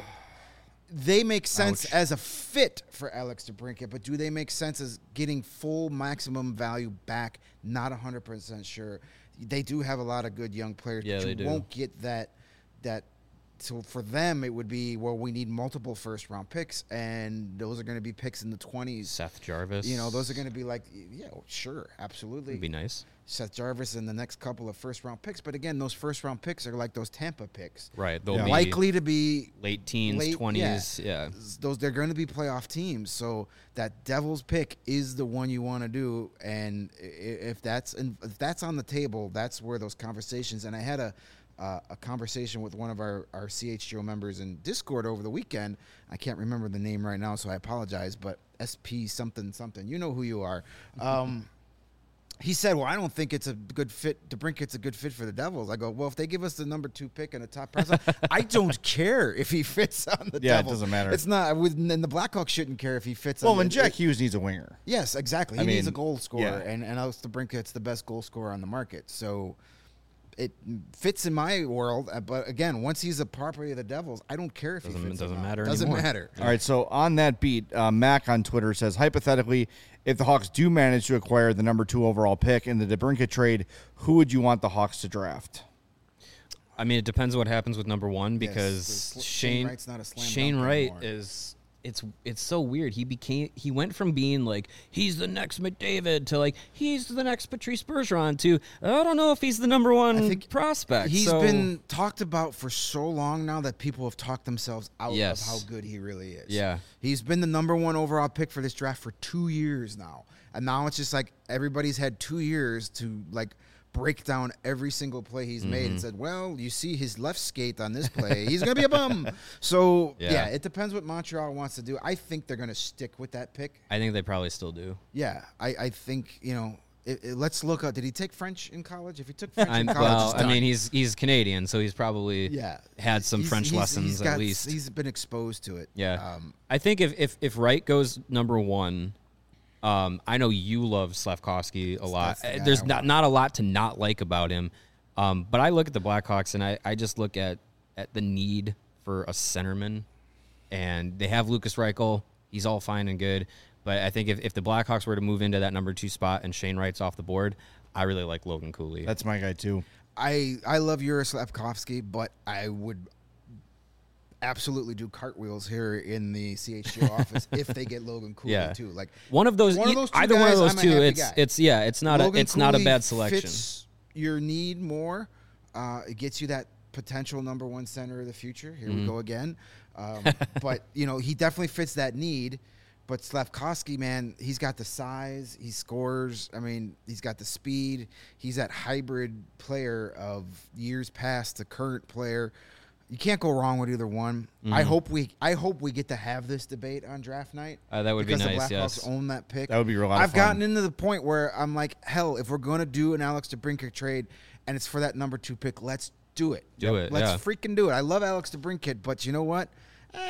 they make sense Ouch. as a fit for Alex DeBrincat, but do they make sense as getting full maximum value back? Not one hundred percent sure. They do have a lot of good young players, Yeah, but they you do. won't get that that so for them it would be, well, we need multiple first round picks, and those are going to be picks in the twenties. Seth Jarvis. You know, those are going to be like, yeah, sure, absolutely. would be nice. Seth Jarvis and the next couple of first-round picks. But again, those first-round picks are like those Tampa picks. Right. They'll Yeah. be Likely to be late teens, late- twenties. Yeah. those they're going to be playoff teams. So that Devils pick is the one you want to do, and i- if that's in, if that's on the table, that's where those conversations. And I had a uh, a conversation with one of our our C H G O members in Discord over the weekend. I can't remember the name right now, so I apologize. But S P something something, you know who you are. Um, He said, well, I don't think it's a good fit. DeBrincat's a good fit for the Devils. I go, well, if they give us the number two pick and a top prospect, I don't care if he fits on the Yeah, it Devils. doesn't matter. It's not. I would, and the Blackhawks shouldn't care if he fits Well, on and the Jack it- Hughes needs a winger. Yes, exactly. He I needs a mean, goal scorer, yeah. and, and Alex DeBrincat's the best goal scorer on the market. So it fits in my world. uh, But again, once he's a property of the Devils, I don't care if Doesn't- he fits or doesn't not. matter Doesn't anymore. matter. All right, so on that beat, uh, Mac on Twitter says, hypothetically, if the Hawks do manage to acquire the number two overall pick in the DeBrincat trade, who would you want the Hawks to draft? I mean, it depends what happens with number one Yes, because the sl- Shane Shane Wright's not a slam Shane dunk Wright anymore. is it's it's so weird. He became he went from being like he's the next McDavid to like he's the next Patrice Bergeron to I don't know if he's the number one I think prospect. He's So- been talked about for so long now that people have talked themselves out Yes. of how good he really is. Yeah. He's been the number one overall pick for this draft for two years now. And now it's just like everybody's had two years to like break down every single play he's made Mm-hmm. and said, well, you see his left skate on this play. He's going to be a bum. So, yeah. Yeah. it depends what Montreal wants to do. I think they're going to stick with that pick. I think they probably still do. Yeah. I, I think, you know, it, it- let's look up. Did he take French in college? If he took French I'm, in college, well, it's I done. mean, he's he's Canadian, so he's probably Yeah, had some He's- French he's- lessons he's at got- least. He's been exposed to it. Yeah. Um, I think if, if, if Wright goes number one, um, I know you love Slavkovsky a lot. That's the Uh, guy There's I not, want. not a lot to not like about him. Um, but I look at the Blackhawks and I, I just look at, at the need for a centerman. And they have Lucas Reichel. He's all fine and good. But I think if, if the Blackhawks were to move into that number two spot and Shane Wright's off the board, I really like Logan Cooley. That's my guy, too. I I love Yuri Slavkovsky, but I would absolutely do cartwheels here in the C H G O office if they get Logan Cooley Yeah. too. Like one of those, one of e- those two either one of guys, those I'm a two. happy It's guy. it's yeah. It's not Logan a it's not a Cooley bad selection. Fits your need more. Uh, it gets you that potential number one center of the future. Here Mm-hmm. we go again. Um, but you know he definitely fits that need. But Slavkovsky, man, he's got the size. He scores. I mean, he's got the speed. He's that hybrid player of years past, the current player. You can't go wrong with either one. I hope we, I hope we get to have this debate on draft night. Uh, that would be because nice, the Blackhawks yes. own that pick. That would be a lot of I've fun. gotten into the point where I'm like, hell, if we're going to do an Alex DeBrincat trade and it's for that number two pick, let's do it. Do it, Let's yeah. freaking do it. I love Alex DeBrincat, but you know what? Eh,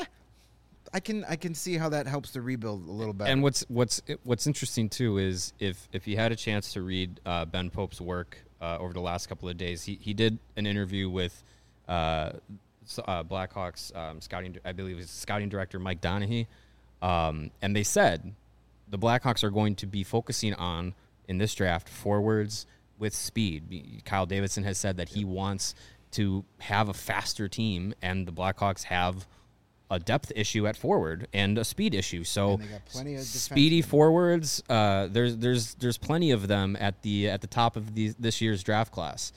I can I can see how that helps the rebuild a little better. And what's what's what's interesting too is if if you had a chance to read uh, Ben Pope's work uh, over the last couple of days, he he did an interview with uh, s- uh, Blackhawks um, scouting, I believe it's scouting director Mike Donaghy, um, and they said the Blackhawks are going to be focusing on in this draft forwards with speed. Kyle Davidson has said that he wants to have a faster team, and the Blackhawks have a depth issue at forward and a speed issue. So And they got plenty of speedy defensemen. forwards, uh, there's there's there's plenty of them at the at the top of the, this year's draft class.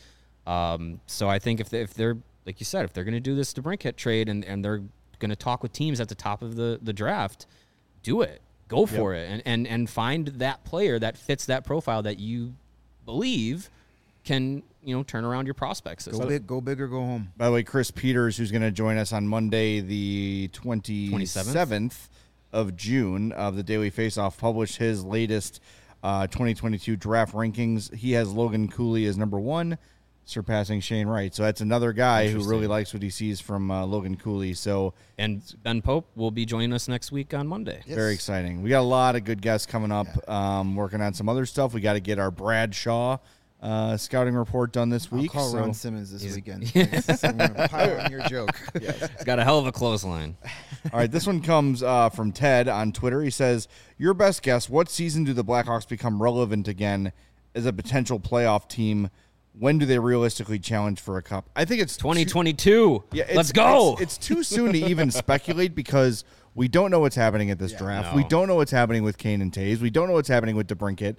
Um, so I think if they, if they're like you said, if they're going to do this DeBrincat trade and, and they're going to talk with teams at the top of the, the draft, do it, go for it, and, and and find that player that fits that profile that you believe can you know turn around your prospects. go big, go big or go home. By the way, Chris Peters, who's going to join us on Monday, the twenty-seventh of June of the Daily Faceoff, published his latest uh, twenty twenty-two draft rankings. He has Logan Cooley as number one, surpassing Shane Wright. So that's another guy who really likes what he sees from uh, Logan Cooley. So And Ben Pope will be joining us next week on Monday. Yes. very exciting. We got a lot of good guests coming up, um, working on some other stuff. We got to get our Brad Shaw uh, scouting report done this I'll week. call so Ron Simmons this weekend. I'm going to pile on your joke. He's got a hell of a clothesline. All right, this one comes uh, from Ted on Twitter. He says, your best guess, what season do the Blackhawks become relevant again as a potential playoff team when do they realistically challenge for a cup? I think it's twenty twenty-two. Yeah, it's, let's go. It's, it's too soon to even speculate because we don't know what's happening at this Yeah, draft. no. We don't know what's happening with Kane and Taves. We don't know what's happening with DeBrincat.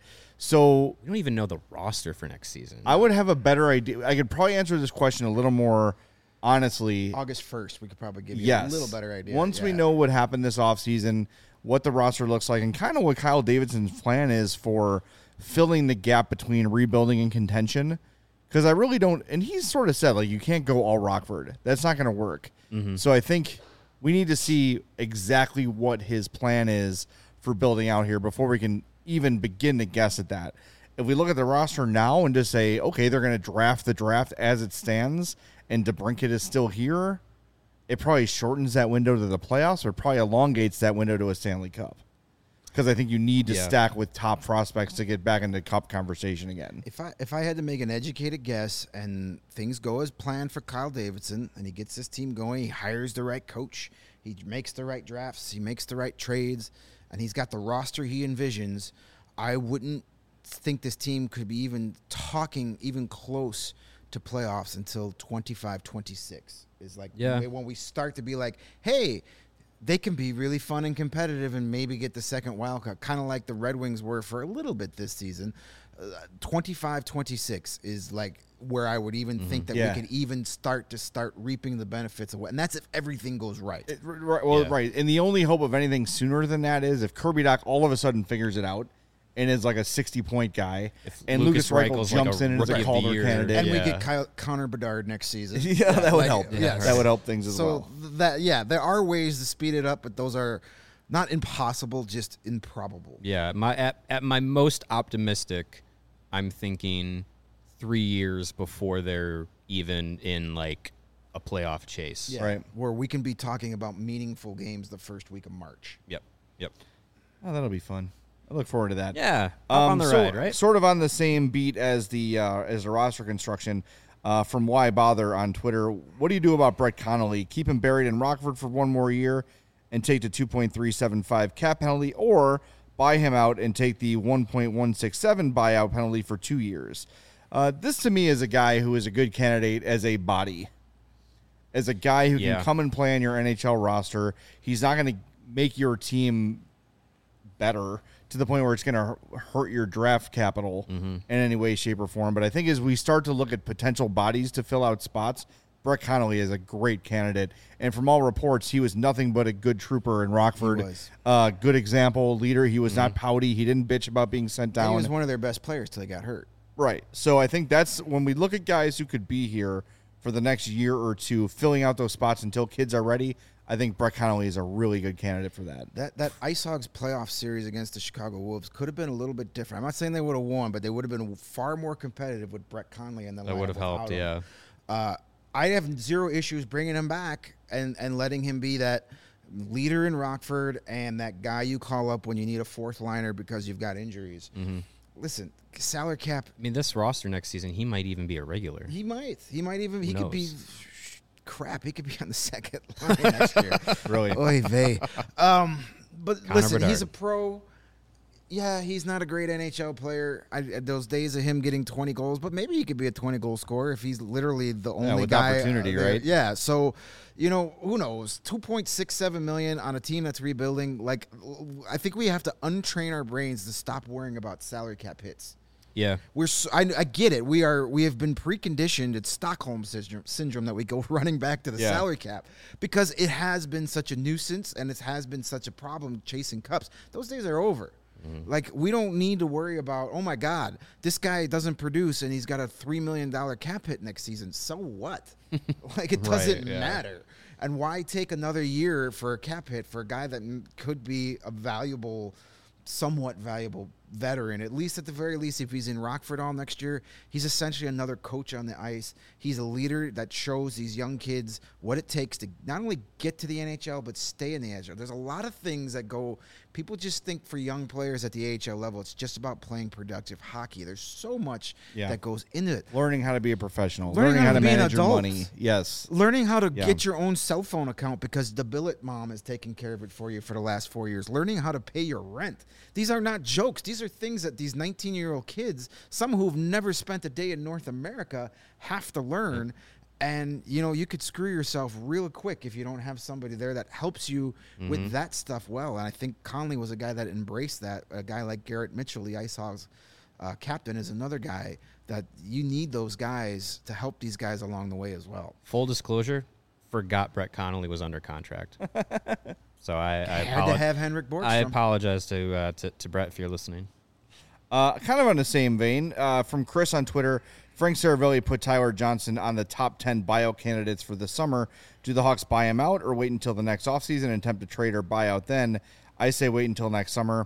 So We don't even know the roster for next season. I would have a better idea. I could probably answer this question a little more honestly. August first, we could probably give you Yes. a little better idea. Once we Yeah. know what happened this offseason, what the roster looks like, and kind of what Kyle Davidson's plan is for filling the gap between rebuilding and contention. Because I really don't, and he's sort of said, like, you can't go all Rockford. That's not going to work. Mm-hmm. So I think we need to see exactly what his plan is for building out here before we can even begin to guess at that. If we look at the roster now and just say, okay, they're going to draft the draft as it stands, and DeBrincat is still here, it probably shortens that window to the playoffs or probably elongates that window to a Stanley Cup. Because I think you need to Yeah. stack with top prospects to get back into cup conversation again. If I if I had to make an educated guess and things go as planned for Kyle Davidson and he gets this team going, he hires the right coach, he makes the right drafts, he makes the right trades, and he's got the roster he envisions, I wouldn't think this team could be even talking even close to playoffs until twenty-five twenty-six is like Yeah. when we start to be like, hey, they can be really fun and competitive and maybe get the second wild card, kind of like the Red Wings were for a little bit this season. Uh, twenty-five twenty-six is like where I would even think that Yeah. we could even start to start reaping the benefits of what, and that's if everything goes right. It- right, well, Yeah. right. And the only hope of anything sooner than that is if Kirby Doc all of a sudden figures it out and is like a sixty-point guy, If and Lucas Lucas Reichel Reichel's like jumps a in and is rookie a of the Calder year. candidate. and we Yeah. get Kyle, Connor Bedard next season. yeah, that would like, help. yes. That would help things as So well. th- that yeah, there are ways to speed it up, but those are not impossible, just improbable. Yeah, my at, at my most optimistic, I'm thinking three years before they're even in like a playoff chase. Yeah, Right. where we can be talking about meaningful games the first week of March. Yep. Yep. Oh, that'll be fun. I look forward to that. Yeah. Up on the Um, so- ride, right? Sort of on the same beat as the uh, as the roster construction. Uh, from Why Bother on Twitter, what do you do about Brett Connolly? Keep him buried in Rockford for one more year and take the two point three seven five cap penalty, or buy him out and take the one point one six seven buyout penalty for two years. Uh, this to me is a guy who is a good candidate as a body, as a guy who Yeah. can come and play on your N H L roster. He's not going to make your team better to the point where it's going to hurt your draft capital in any way, shape, or form. But I think as we start to look at potential bodies to fill out spots, Brett Connolly is a great candidate. And from all reports, he was nothing but a good trooper in Rockford. He was. Uh, good example, leader. He was not pouty. He didn't bitch about being sent He down. was one of their best players till he got hurt. Right. So I think that's when we look at guys who could be here for the next year or two, filling out those spots until kids are ready. I think Brett Connolly is a really good candidate for that. That that Ice Hogs playoff series against the Chicago Wolves could have been a little bit different. I'm not saying they would have won, but they would have been far more competitive with Brett Connolly in the That lineup would have helped, without him. yeah. Uh, I have zero issues bringing him back and, and letting him be that leader in Rockford and that guy you call up when you need a fourth liner because you've got injuries. Mm-hmm. Listen, salary cap, I mean, this roster next season, he might even be a regular. he might. He might even, he Who could be, knows? crap, he could be on the second line next year. Really. Oy vey. Um, but Connor listen, he's Bedard. a pro. Yeah, he's not a great N H L player. I, those days of him getting twenty goals, but maybe he could be a twenty-goal scorer if he's literally the only with guy. opportunity, uh, there. right? Yeah, so, you know, who knows? two point six seven million dollars on a team that's rebuilding. Like, I think we have to untrain our brains to stop worrying about salary cap hits. Yeah. We're so, I, I get it. We are we have been preconditioned. It's Stockholm syndrome, syndrome that we go running back to the Yeah. salary cap because it has been such a nuisance and it has been such a problem chasing cups. Those days are over. Like, we don't need to worry about, oh my God, this guy doesn't produce and he's got a three million dollars cap hit next season. So what? Like, it doesn't Right, yeah. matter. And why take another year for a cap hit for a guy that m- could be a valuable, somewhat valuable veteran? At least at the very least, if he's in Rockford all next year, he's essentially another coach on the ice. He's a leader that shows these young kids what it takes to not only get to the N H L, but stay in the N H L. There's a lot of things that go, people just think for young players at the A H L level, it's just about playing productive hockey. There's so much Yeah. that goes into it. Learning how to be a professional. Learning Learning, how how, to to be an manage your adult. money. Yes. Learning how to Yeah. get your own cell phone account because the billet mom has taken care of it for you for the last four years. Learning how to pay your rent. These are not jokes. These these are things that these nineteen-year-old kids, some who've never spent a day in North America, have to learn. Yeah. And, you know, you could screw yourself real quick if you don't have somebody there that helps you mm-hmm. with that stuff well. And I think Connolly was a guy that embraced that. A guy like Garrett Mitchell, the Ice Hogs uh, captain, is another guy that you need those guys to help these guys along the way as well. Full disclosure, forgot Brett Connolly was under contract. So I, I had to have Henrik Borgstrom. I apologize to, uh, to to Brett if you're listening. Uh, kind of on the same vein, uh, from Chris on Twitter, Frank Saravelli put Tyler Johnson on the top ten buyout candidates for the summer. Do the Hawks buy him out or wait until the next offseason and attempt to trade or buy out then? I say wait until next summer.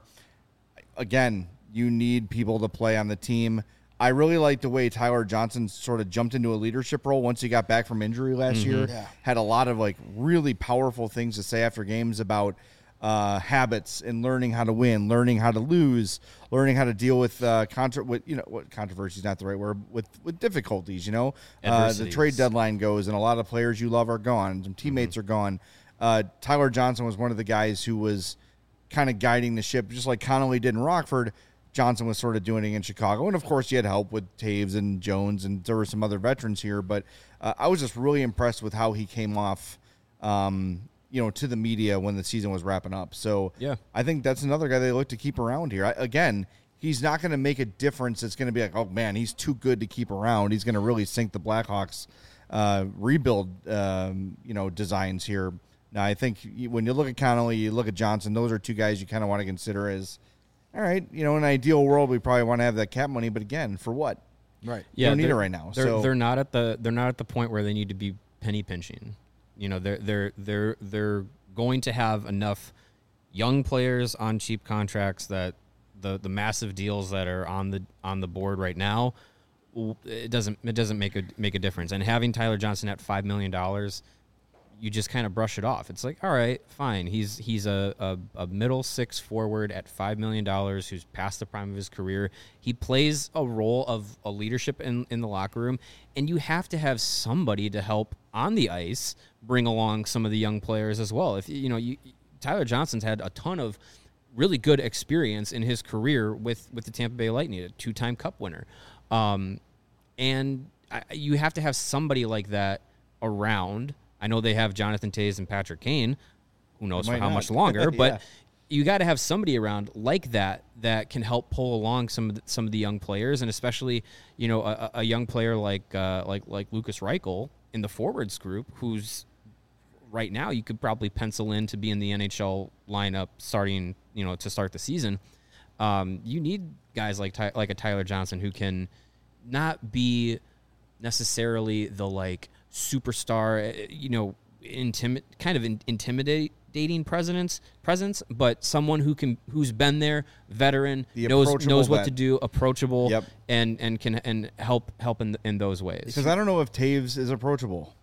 Again, you need people to play on the team. I really like the way Tyler Johnson sort of jumped into a leadership role once he got back from injury last mm-hmm. year. Yeah. Had a lot of like really powerful things to say after games about uh, habits and learning how to win, learning how to lose, learning how to deal with uh, contra- with you know what controversy is not the right word, with with difficulties. You know, uh, the trade deadline goes, and a lot of players you love are gone. Some teammates mm-hmm. are gone. Uh, Tyler Johnson was one of the guys who was kind of guiding the ship, just like Connolly did in Rockford. Johnson was sort of doing it in Chicago. And, of course, you had help with Taves and Jones, and there were some other veterans here. But uh, I was just really impressed with how he came off, um, you know, to the media when the season was wrapping up. So yeah. I think that's another guy they look to keep around here. I, again, he's not going to make a difference. It's going to be like, oh, man, he's too good to keep around. He's going to really sink the Blackhawks uh, rebuild, um, you know, designs here. Now, I think when you look at Connolly, you look at Johnson, those are two guys you kind of want to consider as, all right, you know, in an ideal world, we probably want to have that cap money, but again, for what? Right. Yeah, you don't need it right now. They're so they're not at the they're not at the point where they need to be penny pinching. You know, they're they're they're they're going to have enough young players on cheap contracts that the the massive deals that are on the on the board right now, it doesn't it doesn't make a make a difference. And having Tyler Johnson at five million dollars, you just kind of brush it off. It's like, all right, fine. He's he's a, a, a middle six forward at five million dollars who's past the prime of his career. He plays a role of a leadership in, in the locker room, and you have to have somebody to help on the ice bring along some of the young players as well. If you know, you, Tyler Johnson's had a ton of really good experience in his career with, with the Tampa Bay Lightning, a two-time Cup winner. Um, and I, you have to have somebody like that around. I know they have Jonathan Toews and Patrick Kane, who knows for how not. much longer, yeah. but you got to have somebody around like that that can help pull along some of the, some of the young players, and especially, you know, a, a young player like uh, like like Lucas Reichel in the forwards group, who's right now you could probably pencil in to be in the N H L lineup starting, you know, to start the season. Um, you need guys like Ty- like a Tyler Johnson who can not be necessarily the like superstar, you know, intimid kind of in, intimidating presence, presence, but someone who can, who's been there, veteran, the knows knows what vet. to do, approachable, yep. and and can and help help in in those ways. Because I don't know if Taves is approachable.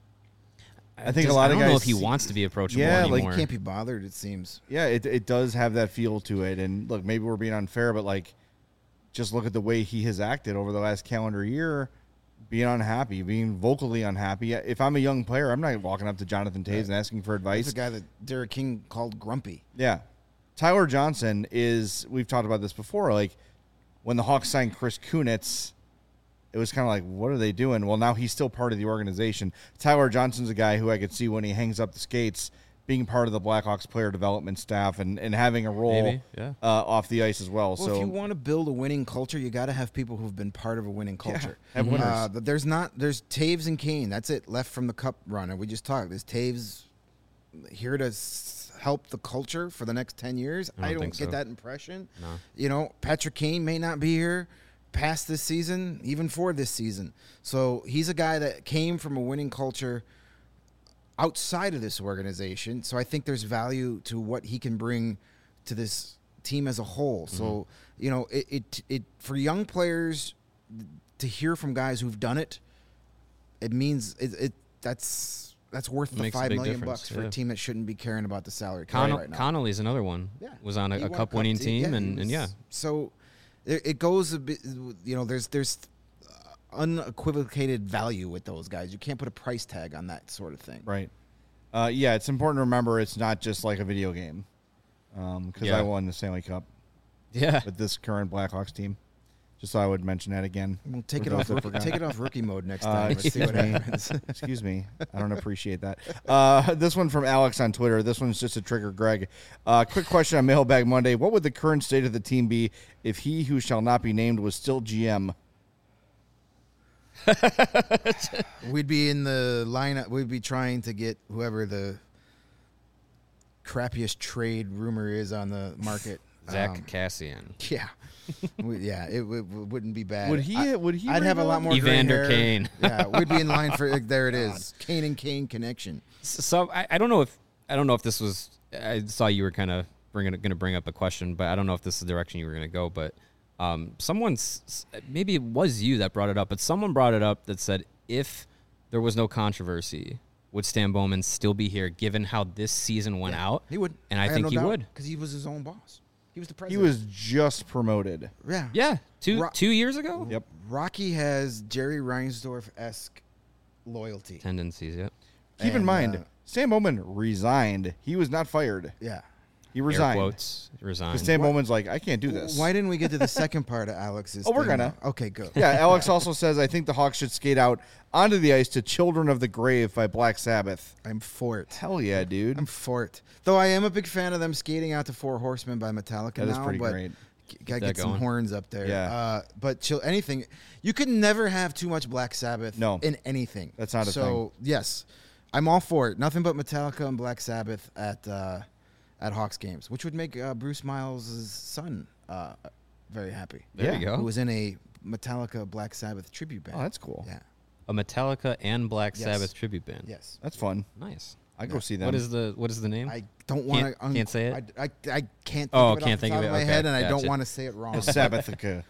I think Does, a lot I of don't guys know if he wants to be approachable yeah, anymore. like He can't be bothered, it seems. Yeah, it it does have that feel to it. And look, maybe we're being unfair, but like, just look at the way he has acted over the last calendar year. Being unhappy, being vocally unhappy. If I'm a young player, I'm not walking up to Jonathan Toews right. and asking for advice. That's a guy that Derek King called grumpy. Yeah. Tyler Johnson is, we've talked about this before, like when the Hawks signed Chris Kunitz, it was kind of like, what are they doing? Well, now he's still part of the organization. Tyler Johnson's a guy who I could see when he hangs up the skates being part of the Blackhawks player development staff and, and having a role Maybe, yeah. uh, off the ice as well. Well, so if you want to build a winning culture, you got to have people who've been part of a winning culture. Yeah, have winners. Uh, but there's not. There's Taves and Kane. That's it. Left from the Cup run, and we just talked. Is Taves here to s- help the culture for the next ten years? I don't, I don't think get so. that impression. No. You know, Patrick Kane may not be here past this season, even for this season. So he's a guy that came from a winning culture outside of this organization. So I think there's value to what he can bring to this team as a whole. Mm-hmm. So, you know, it, it, it, for young players to hear from guys who've done it, it means it, it that's, that's worth the five million bucks for yeah. a team that shouldn't be caring about the salary cap right now. Connolly's another one. Yeah. Was on a, a cup, cup winning team, yeah, and, was, and yeah. So it, it goes a bit, you know, there's, there's, unequivocated value with those guys. You can't put a price tag on that sort of thing. Right. Uh, yeah, it's important to remember it's not just like a video game. Because um, yeah. I won the Stanley Cup. Yeah. with this current Blackhawks team. Just thought I would mention that again. We'll take For it off. those that Rookie, forgot. take it off rookie mode next Uh, time. Let's see excuse what me. happens. Excuse me. I don't appreciate that. Uh, this one from Alex on Twitter. This one's just to trigger Greg. Uh, quick question on Mailbag Monday. What would the current state of the team be if he who shall not be named was still G M? We'd be in the lineup. We'd be trying to get whoever the crappiest trade rumor is on the market. Zach Um, Cassian. Yeah, we, yeah, it, w- w- wouldn't be bad. Would he? I, would he? I'd have a lot more. gray Evander hair. Kane. Yeah, we'd be in line for. Like, there it is, Kane and Kane connection. So I, I don't know if I don't know if this was. I saw you were kind of bringing going to bring up a question, but I don't know if this is the direction you were going to go. But um, someone's maybe it was you that brought it up, but someone brought it up that said if there was no controversy, would Stan Bowman still be here? Given how this season went out, He would, and I, think he would because he was his own boss. He was the He president. was just promoted. Yeah, Yeah, two Ro- two years ago. Yep. Rocky has Jerry Reinsdorf esque loyalty. Tendencies. Yep. Keep in And, mind, uh, Stan Bowman resigned. He was not fired. Yeah. He Air resigned. quotes. Resigned. Because Stan Bowman's like, I can't do this. Why didn't we get to the second part of Alex's? Oh, we're thing gonna. now? Okay, good. Yeah, Alex also says, I think the Hawks should skate out onto the ice to Children of the Grave by Black Sabbath. I'm for it. Hell yeah, dude. I'm for it. Though I am a big fan of them skating out to Four Horsemen by Metallica That now. is pretty but great. g- Gotta that get some going. horns up there. Yeah. Uh, but chill, anything. You can never have too much Black Sabbath No. in anything. That's not a so, yes, I'm all for it. Nothing but Metallica and Black Sabbath at uh, at Hawks games, which would make uh, Bruce Miles' son uh, very happy. There Yeah. you go. Who was in a Metallica Black Sabbath tribute band. Oh, that's cool. Yeah. A Metallica and Black Yes. Sabbath tribute band. Yes. That's fun. Nice. I go Yeah. see them. What is the what is the name? I don't want to. Can't- can't say it? I, I, I can't. Think Oh, of it can't off think the of top it. my Okay, head, and I don't gotcha. want to say it wrong. Sabbathica.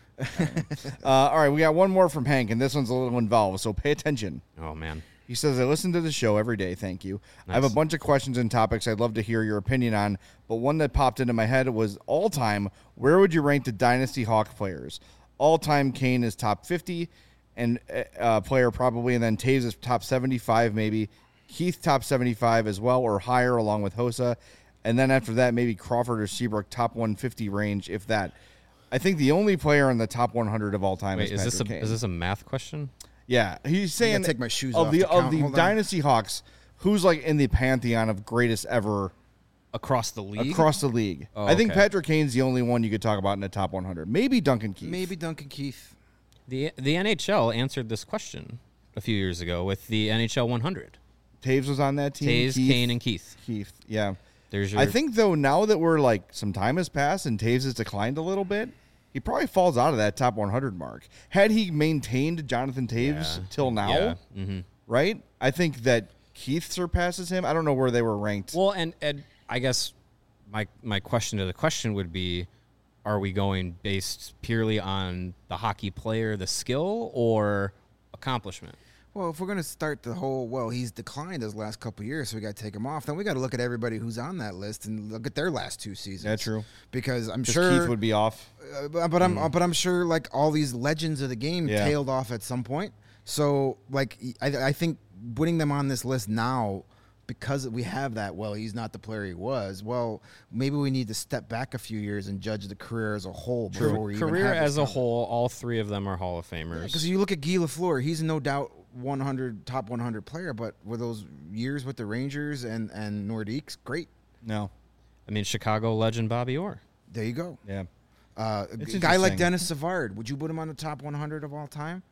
uh, all right, we got one more from Hank, and this one's a little involved, so pay attention. oh man. He says, I listen to the show every day. Thank you. I have a Nice. bunch of questions and topics I'd love to hear your opinion on, but one that popped into my head was all time, where would you rank the Dynasty Hawk players? All time, Kane is top fifty, and uh, player probably, and then Taves is top seventy-five, maybe. Keith top seventy-five as well, or higher, along with Hossa. And then after that, maybe Crawford or Seabrook top one fifty range, if that. I think the only player in the top one hundred of all time Wait, is is this a Patrick Kane. is this a math question? Yeah, he's saying take my shoes of off the to of count. the Hold on. Dynasty Hawks, who's like in the pantheon of greatest ever Across the league? across the league. Oh, I think okay. Patrick Kane's the only one you could talk about in the top one hundred. Maybe Duncan Keith. Maybe Duncan Keith. The the N H L answered this question a few years ago with the N H L one hundred. Taves was on that team. Taves, Keith, Kane, and Keith. Keith. Yeah. There's your I think though now that we're like some time has passed and Taves has declined a little bit, he probably falls out of that top one hundred mark. Had he maintained Jonathan Taves Yeah. till now, Yeah. Mm-hmm. right? I think that Keith surpasses him. I don't know where they were ranked. Well, and, and I guess my my question to the question would be, are we going based purely on the hockey player, the skill, or accomplishment? Well, if we're gonna start the whole, well, he's declined his last couple of years, so we got to take him off. Then we got to look at everybody who's on that list and look at their last two seasons. Yeah, true. Because I'm 'Cause sure Keith would be off. Uh, but but I'm but I'm sure like all these legends of the game Yeah. tailed off at some point. So like I, I think putting them on this list now because we have that. Well, he's not the player he was. Well, maybe we need to step back a few years and judge the career as a whole before we even Career have as this a conversation. whole, all three of them are Hall of Famers. Because you look at Guy Lafleur, he's no doubt one hundred top one hundred player, but with those years with the Rangers and and Nordiques, great. No. I mean, Chicago legend Bobby Orr. There you go. Yeah. Uh, a It's g- guy like interesting. Dennis Savard, would you put him on the top one hundred of all time?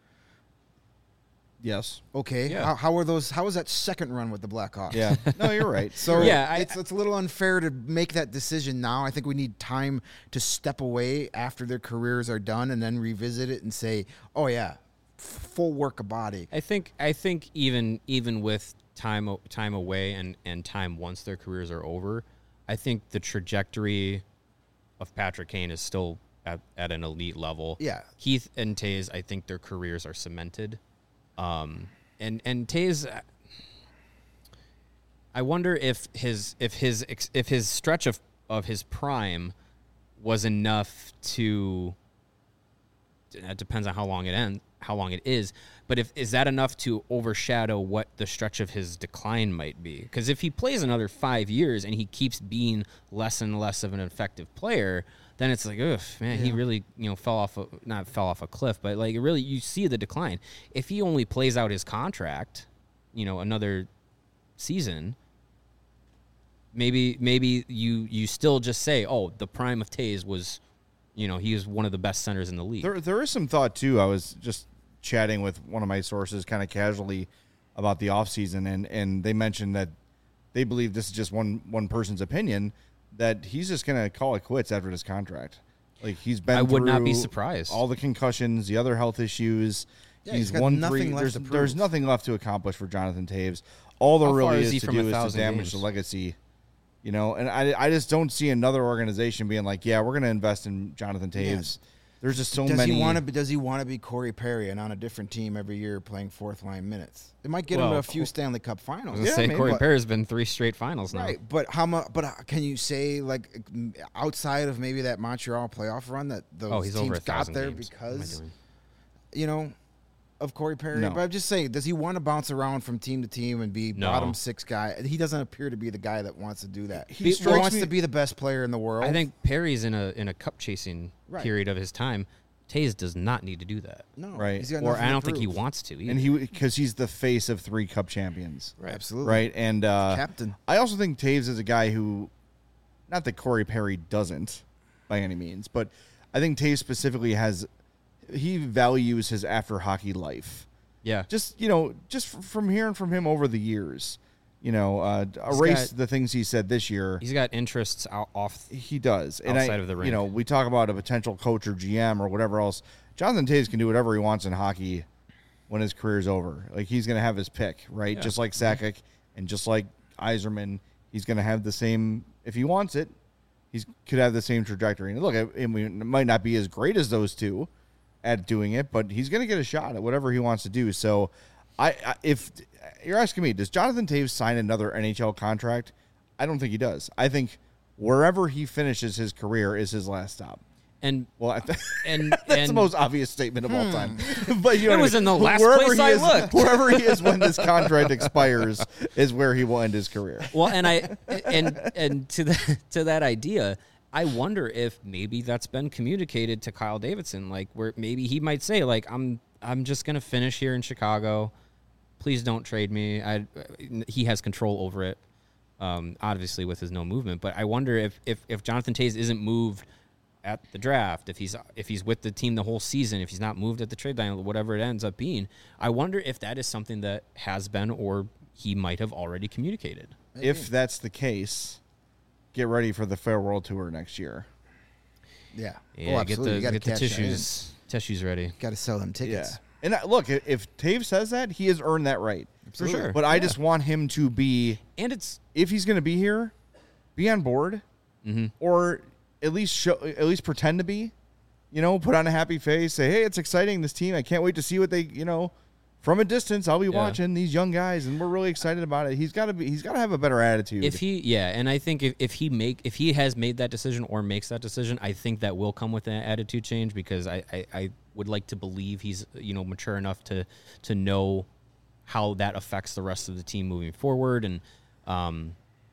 Yes. Okay. Yeah. How, how are those? How was that second run with the Blackhawks? Yeah. No, you're right. So Yeah, I- it's it's a little unfair to make that decision now. I think we need time to step away after their careers are done and then revisit it and say, "Oh yeah, f- full work of body." I think I think even even with time o- time away and, and time once their careers are over, I think the trajectory of Patrick Kane is still at, at an elite level. Yeah. Keith and Taze, I think their careers are cemented. Um, and and Taze, uh, I wonder if his if his ex- if his stretch of, of his prime was enough to. It depends on how long it ends, how long it is. But if is that enough to overshadow what the stretch of his decline might be? Because if he plays another five years and he keeps being less and less of an effective player, then it's like, ugh, man, he Yeah. really, you know, fell off, a, not fell off a cliff, but like really, you see the decline. If he only plays out his contract, you know, another season, maybe maybe you you still just say, oh, the prime of Taves was, you know, he was one of the best centers in the league. There, there is some thought, too. I was just chatting with one of my sources kind of casually about the offseason, and, and they mentioned that they believe this is just one, one person's opinion, that he's just going to call it quits after this contract. Like, he's been I would not be through surprised. all the concussions, the other health issues. Yeah, he's he's got won nothing three. left There's, to there's prove. nothing left to accomplish for Jonathan Taves. All there How far really is is, he to from do a is to thousand damage games? the legacy. You know, and I, I just don't see another organization being like, yeah, we're going to invest in Jonathan Taves. Yes. There's just so does many. he want to? Does he want to be Corey Perry and on a different team every year playing fourth line minutes? It might get him Well, to a few Stanley Cup I finals. was gonna Yeah, say maybe, Corey but- Perry's been three straight finals now. Right, but how much? But uh, can you say like m- outside of maybe that Montreal playoff run that those Oh, he's teams over a got thousand there games. What am I because doing? you know of Corey Perry? No. But I'm just saying, does he want to bounce around from team to team and be No. bottom six guy? He doesn't appear to be the guy that wants to do that. He He, strikes wants me- to be the best player in the world. I think Perry's in a in a cup chasing Right. period of his time. Taves does not need to do that, no, Right. he's got or nothing I to don't think he prove. wants to. Either. and he because he's the face of three Cup champions, Right. Absolutely, right? And uh, captain. I also think Taves is a guy who, not that Corey Perry doesn't, by any means, but I think Taves specifically has, he values his after hockey life. yeah, Just you know, just f- from hearing from him over the years, you know, uh, He's erase got- the things he said this year. he's got interests out off. He does. And Outside I, of the You rink. know, we talk about a potential coach or G M or whatever else. Jonathan Taves can do whatever he wants in hockey when his career's over. Like, he's going to have his pick, right? Yeah. Just like Sakic and just like Yzerman, he's going to have the same, if he wants it, he could have the same trajectory. And look, I, I mean, it might not be as great as those two at doing it, but he's going to get a shot at whatever he wants to do. So, I, I if you're asking me, does Jonathan Taves sign another N H L contract? I don't think he does. I think wherever he finishes his career is his last stop. And Well, I th- and that's and the most obvious statement of all time. But you know It what I was mean? in the last Wherever place he I is, looked. Wherever he is when this contract expires is where he will end his career. well, and I and and to that to that idea, I wonder if maybe that's been communicated to Kyle Davidson, like where maybe he might say, like, I'm I'm just gonna finish here in Chicago. Please don't trade me. I he has control over it, um, obviously with his no movement. But I wonder if if if Jonathan Taves isn't moved at the draft, if he's if he's with the team the whole season, if he's not moved at the trade deadline, whatever it ends up being, I wonder if that is something that has been or he might have already communicated. If that's the case, get ready for the farewell tour next year. Yeah. Yeah, oh, get absolutely. the you gotta get the cash that in. tissues tissues ready. Got to sell them tickets. Yeah. And uh, look, if, if Taves says that, he has earned that right. For sure. But I just want him to be, And it's if he's going to be here, be on board, mm-hmm. or at least show, at least pretend to be. You know, put on a happy face, say, "Hey, it's exciting. This team, I can't wait to see what they, you know, from a distance. I'll be Yeah. watching these young guys, and we're really excited about it." He's got to be, he's got to have a better attitude. if he yeah, and I think if, if he make if he has made that decision or makes that decision, I think that will come with an attitude change because I, I, I would like to believe he's you know mature enough to to know how that affects the rest of the team moving forward and um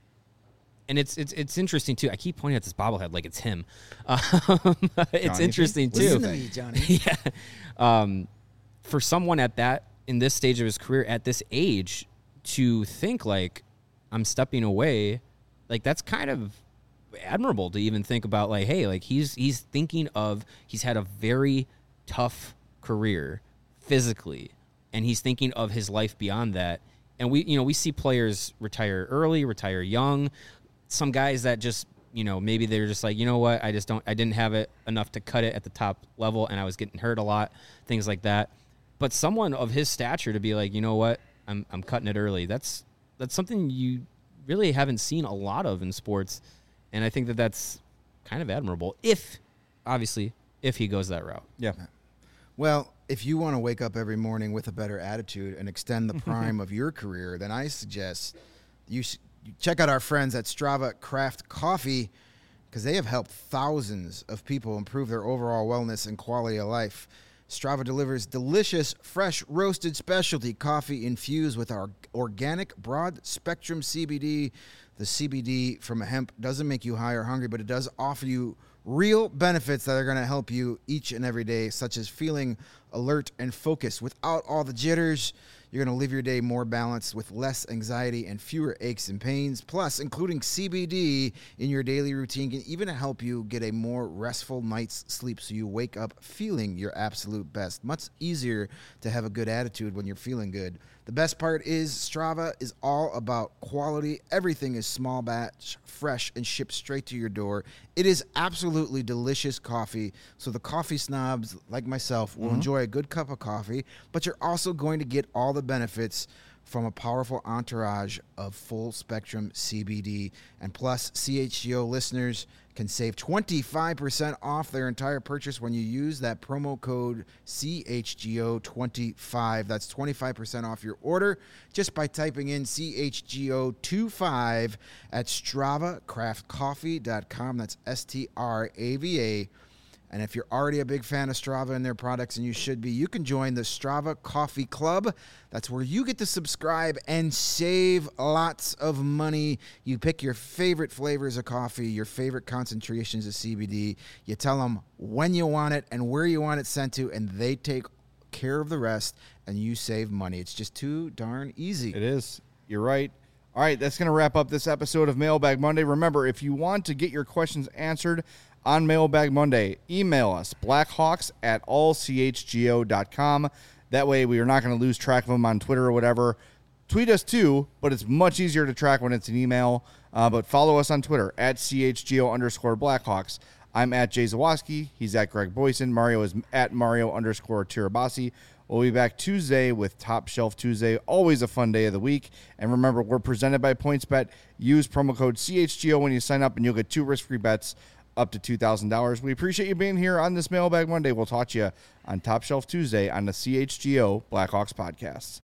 and it's it's it's interesting too. I keep pointing at this bobblehead like it's him. Um, it's Johnny, interesting Listen too. to me, Johnny. yeah. Um, for someone at that in this stage of his career at this age to think like I'm stepping away, like that's kind of admirable to even think about like, hey, like he's he's thinking of he's had a very tough career physically and he's thinking of his life beyond that. And we you know, we see players retire early, retire young. Some guys that just, you know, maybe they're just like, you know what, I just don't, I didn't have it enough to cut it at the top level and I was getting hurt a lot, things like that. But someone of his stature to be like, you know what, I'm I'm cutting it early. That's that's something you really haven't seen a lot of in sports. And I think that that's kind of admirable if, obviously, if he goes that route. yeah, Well, if you want to wake up every morning with a better attitude and extend the prime of your career, then I suggest you, sh- you check out our friends at Strava Craft Coffee because they have helped thousands of people improve their overall wellness and quality of life. Strava delivers delicious, fresh, roasted specialty coffee infused with our organic broad-spectrum C B D. The C B D from hemp doesn't make you high or hungry, but it does offer you Real benefits that are going to help you each and every day, such as feeling alert and focused without all the jitters. You're going to live your day more balanced with less anxiety and fewer aches and pains. Plus, including C B D in your daily routine can even help you get a more restful night's sleep so you wake up feeling your absolute best. Much easier to have a good attitude when you're feeling good. The best part is Strava is all about quality. Everything is small batch, fresh, and shipped straight to your door. It is absolutely delicious coffee, so the coffee snobs like myself will mm-hmm. enjoy a good cup of coffee, but you're also going to get all the benefits from a powerful entourage of full-spectrum C B D. And plus, C H G O listeners can save twenty-five percent off their entire purchase when you use that promo code C H G O twenty-five. That's twenty-five percent off your order just by typing in C H G O twenty-five at strava craft coffee dot com. That's S T R A V A. And if you're already a big fan of Strava and their products, and you should be, you can join the Strava Coffee Club. That's where you get to subscribe and save lots of money. You pick your favorite flavors of coffee, your favorite concentrations of C B D. You tell them when you want it and where you want it sent to, and they take care of the rest, and you save money. It's just too darn easy. It is. You're right. All right, that's going to wrap up this episode of Mailbag Monday. Remember, if you want to get your questions answered on Mailbag Monday, email us, blackhawks at all c h g o dot com. That way we are not going to lose track of them on Twitter or whatever. Tweet us too, but it's much easier to track when it's an email. Uh, but follow us on Twitter, at chgo underscore blackhawks. I'm at Jay Zawoski. He's at Greg Boyson. Mario is at Mario underscore Tirabassi. We'll be back Tuesday with Top Shelf Tuesday. Always a fun day of the week. And remember, we're presented by PointsBet. Use promo code C H G O when you sign up, and you'll get two risk-free bets up to two thousand dollars. We appreciate you being here on this Mailbag Monday. We'll talk to you on Top Shelf Tuesday on the C H G O Blackhawks podcast.